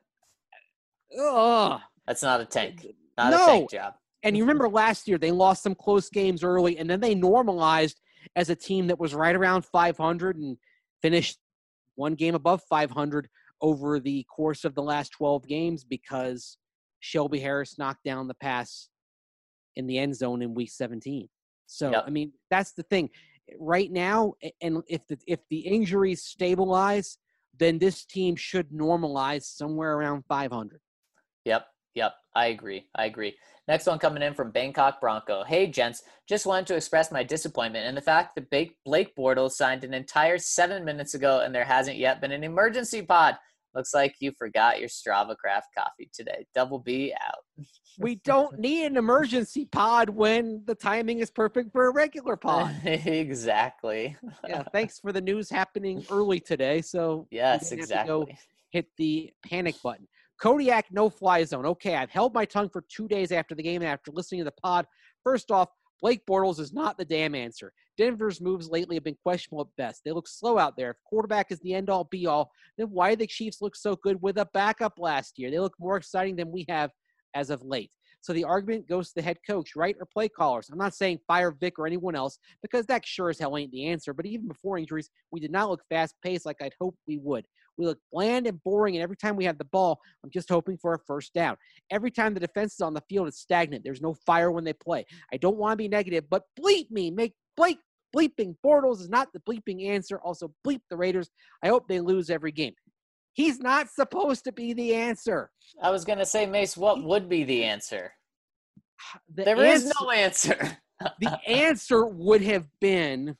C: Ugh.
A: That's not a tank. Not a tank job.
C: And you remember last year, they lost some close games early, and then they normalized as a team that was right around 500 and finished one game above 500 over the course of the last 12 games because Shelby Harris knocked down the pass in the end zone in week 17. So, I mean, that's the thing. Right now, and if the injuries stabilize, then this team should normalize somewhere around 500.
A: Yep. I agree. Next one coming in from Bangkok Bronco. Hey, gents, just wanted to express my disappointment in the fact that Blake Bortles signed an entire 7 minutes ago and there hasn't yet been an emergency pod. Looks like you forgot your Strava Craft coffee today. Double B out.
C: We don't need an emergency pod when the timing is perfect for a regular pod.
A: Exactly.
C: Yeah, thanks for the news happening early today. So
A: yes, exactly.
C: Have to go hit the panic button. Kodiak no-fly zone. Okay, I've held my tongue for 2 days after the game and after listening to the pod. First off, Blake Bortles is not the damn answer. Denver's moves lately have been questionable at best. They look slow out there. If quarterback is the end-all, be-all, then why do the Chiefs look so good with a backup last year? They look more exciting than we have as of late. So the argument goes to the head coach, right, or play callers. I'm not saying fire Vic or anyone else because that sure as hell ain't the answer. But even before injuries, we did not look fast-paced like I'd hoped we would. We look bland and boring, and every time we have the ball, I'm just hoping for a first down. Every time the defense is on the field, it's stagnant. There's no fire when they play. I don't want to be negative, but bleep me. Make Blake bleeping Bortles is not the bleeping answer. Also, bleep the Raiders. I hope they lose every game. He's not supposed to be the answer.
A: I was going to say, Mace, what would be the answer? There is no answer.
C: The answer would have been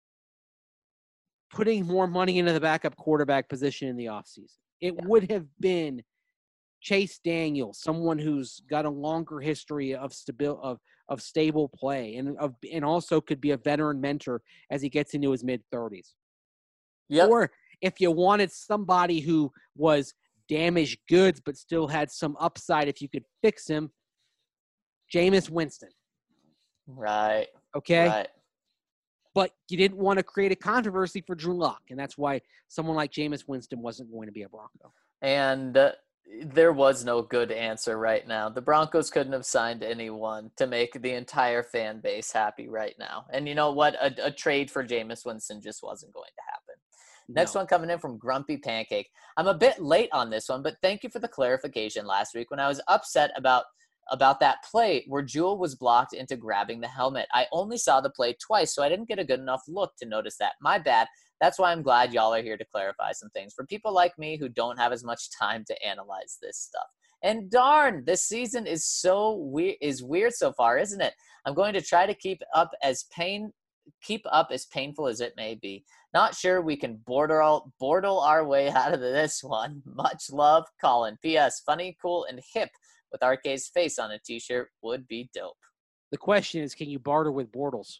C: putting more money into the backup quarterback position in the offseason. It would have been Chase Daniel, someone who's got a longer history of stable play and also could be a veteran mentor as he gets into his mid-30s.
A: Yep.
C: Or if you wanted somebody who was damaged goods but still had some upside if you could fix him, Jameis Winston.
A: Right.
C: Okay?
A: Right.
C: But you didn't want to create a controversy for Drew Lock, and that's why someone like Jameis Winston wasn't going to be a Bronco.
A: And there was no good answer right now. The Broncos couldn't have signed anyone to make the entire fan base happy right now. And you know what? A trade for Jameis Winston just wasn't going to happen. Next one coming in from Grumpy Pancake. I'm a bit late on this one, but thank you for the clarification last week when I was upset about that play where Jewell was blocked into grabbing the helmet. I only saw the play twice, so I didn't get a good enough look to notice that. My bad. That's why I'm glad y'all are here to clarify some things for people like me who don't have as much time to analyze this stuff. And darn, this season is weird so far, isn't it? I'm going to try to keep up as painful as it may be. Not sure we can bortle our way out of this one. Much love, Colin. P.S. Funny, cool, and hip with RK's face on a t-shirt would be dope.
C: The question is, can you barter with Bortles?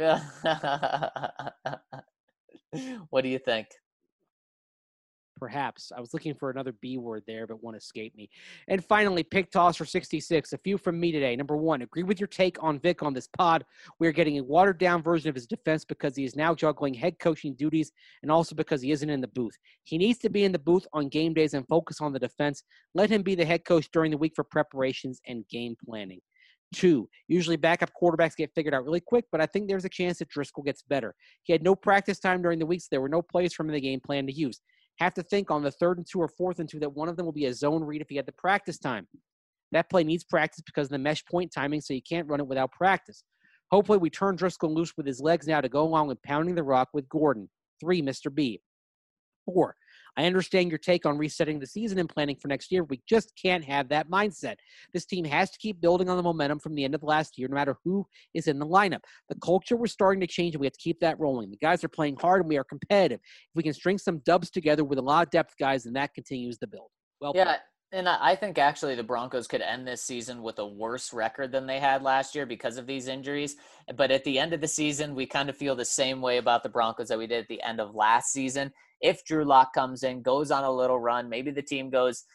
A: What do you think?
C: Perhaps. I was looking for another B word there, but one escaped me. And finally, Pick Toss for 66. A few from me today. Number one, agree with your take on Vic on this pod. We are getting a watered-down version of his defense because he is now juggling head coaching duties and also because he isn't in the booth. He needs to be in the booth on game days and focus on the defense. Let him be the head coach during the week for preparations and game planning. Two, usually backup quarterbacks get figured out really quick, but I think there's a chance that Driscoll gets better. He had no practice time during the week, so there were no plays from the game plan to use. Have to think on the 3rd and 2 or 4th and 2 that one of them will be a zone read if he had the practice time. That play needs practice because of the mesh point timing, so you can't run it without practice. Hopefully we turn Driscoll loose with his legs now to go along with pounding the rock with Gordon. 3, Mr. B. 4, I understand your take on resetting the season and planning for next year. We just can't have that mindset. This team has to keep building on the momentum from the end of last year, no matter who is in the lineup. The culture was starting to change, and we have to keep that rolling. The guys are playing hard, and we are competitive. If we can string some dubs together with a lot of depth guys, then that continues the build. Well
A: yeah,
C: played.
A: and I think actually the Broncos could end this season with a worse record than they had last year because of these injuries. But at the end of the season, we kind of feel the same way about the Broncos that we did at the end of last season. If Drew Lock comes in, goes on a little run, maybe the team goes,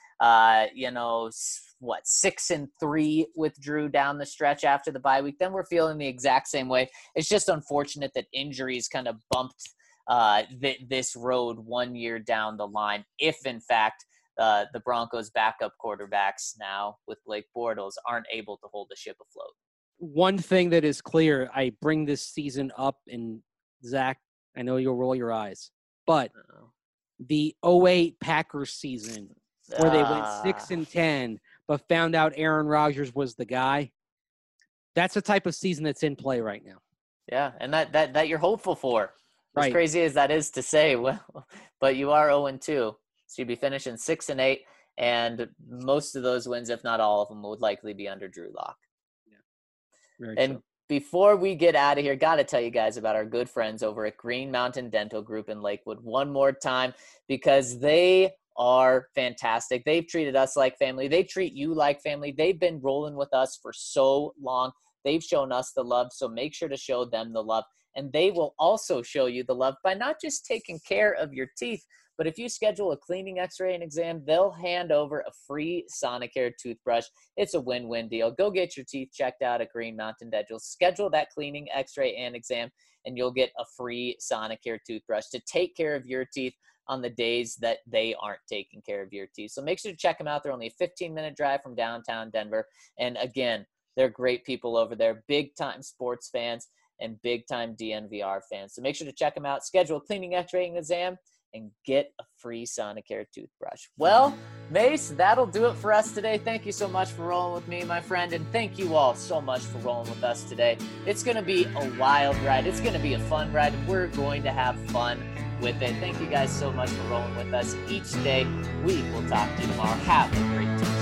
A: 6-3 with Drew down the stretch after the bye week, then we're feeling the exact same way. It's just unfortunate that injuries kind of bumped this road 1 year down the line. If, in fact, the Broncos' backup quarterbacks now with Blake Bortles aren't able to hold the ship afloat.
C: One thing that is clear, I bring this season up, and Zach, I know you'll roll your eyes, but the 2008 Packers season where they went 6-10, but found out Aaron Rodgers was the guy, that's the type of season that's in play right now.
A: Yeah, and that you're hopeful for. As
C: Right.
A: crazy as that is to say, well, but you are 0-2. So you'd be finishing 6-8, and most of those wins, if not all of them, would likely be under Drew Lock.
C: Very
A: And
C: true.
A: before we get out of here, got to tell you guys about our good friends over at Green Mountain Dental Group in Lakewood one more time, because they are fantastic. They've treated us like family. They treat you like family. They've been rolling with us for so long. They've shown us the love, so make sure to show them the love. And they will also show you the love by not just taking care of your teeth, but if you schedule a cleaning, x-ray, and exam, they'll hand over a free Sonicare toothbrush. It's a win-win deal. Go get your teeth checked out at Green Mountain Dental. Schedule that cleaning, x-ray, and exam, and you'll get a free Sonicare toothbrush to take care of your teeth on the days that they aren't taking care of your teeth. So make sure to check them out. They're only a 15-minute drive from downtown Denver. And again, they're great people over there, big-time sports fans and big-time DNVR fans. So make sure to check them out. Schedule a cleaning, x-ray, and exam, and get a free Sonicare toothbrush. Well, Mace, that'll do it for us today. Thank you so much for rolling with me, my friend, and thank you all so much for rolling with us today. It's going to be a wild ride. It's going to be a fun ride, and we're going to have fun with it. Thank you guys so much for rolling with us each day. We will talk to you tomorrow. Have a great day.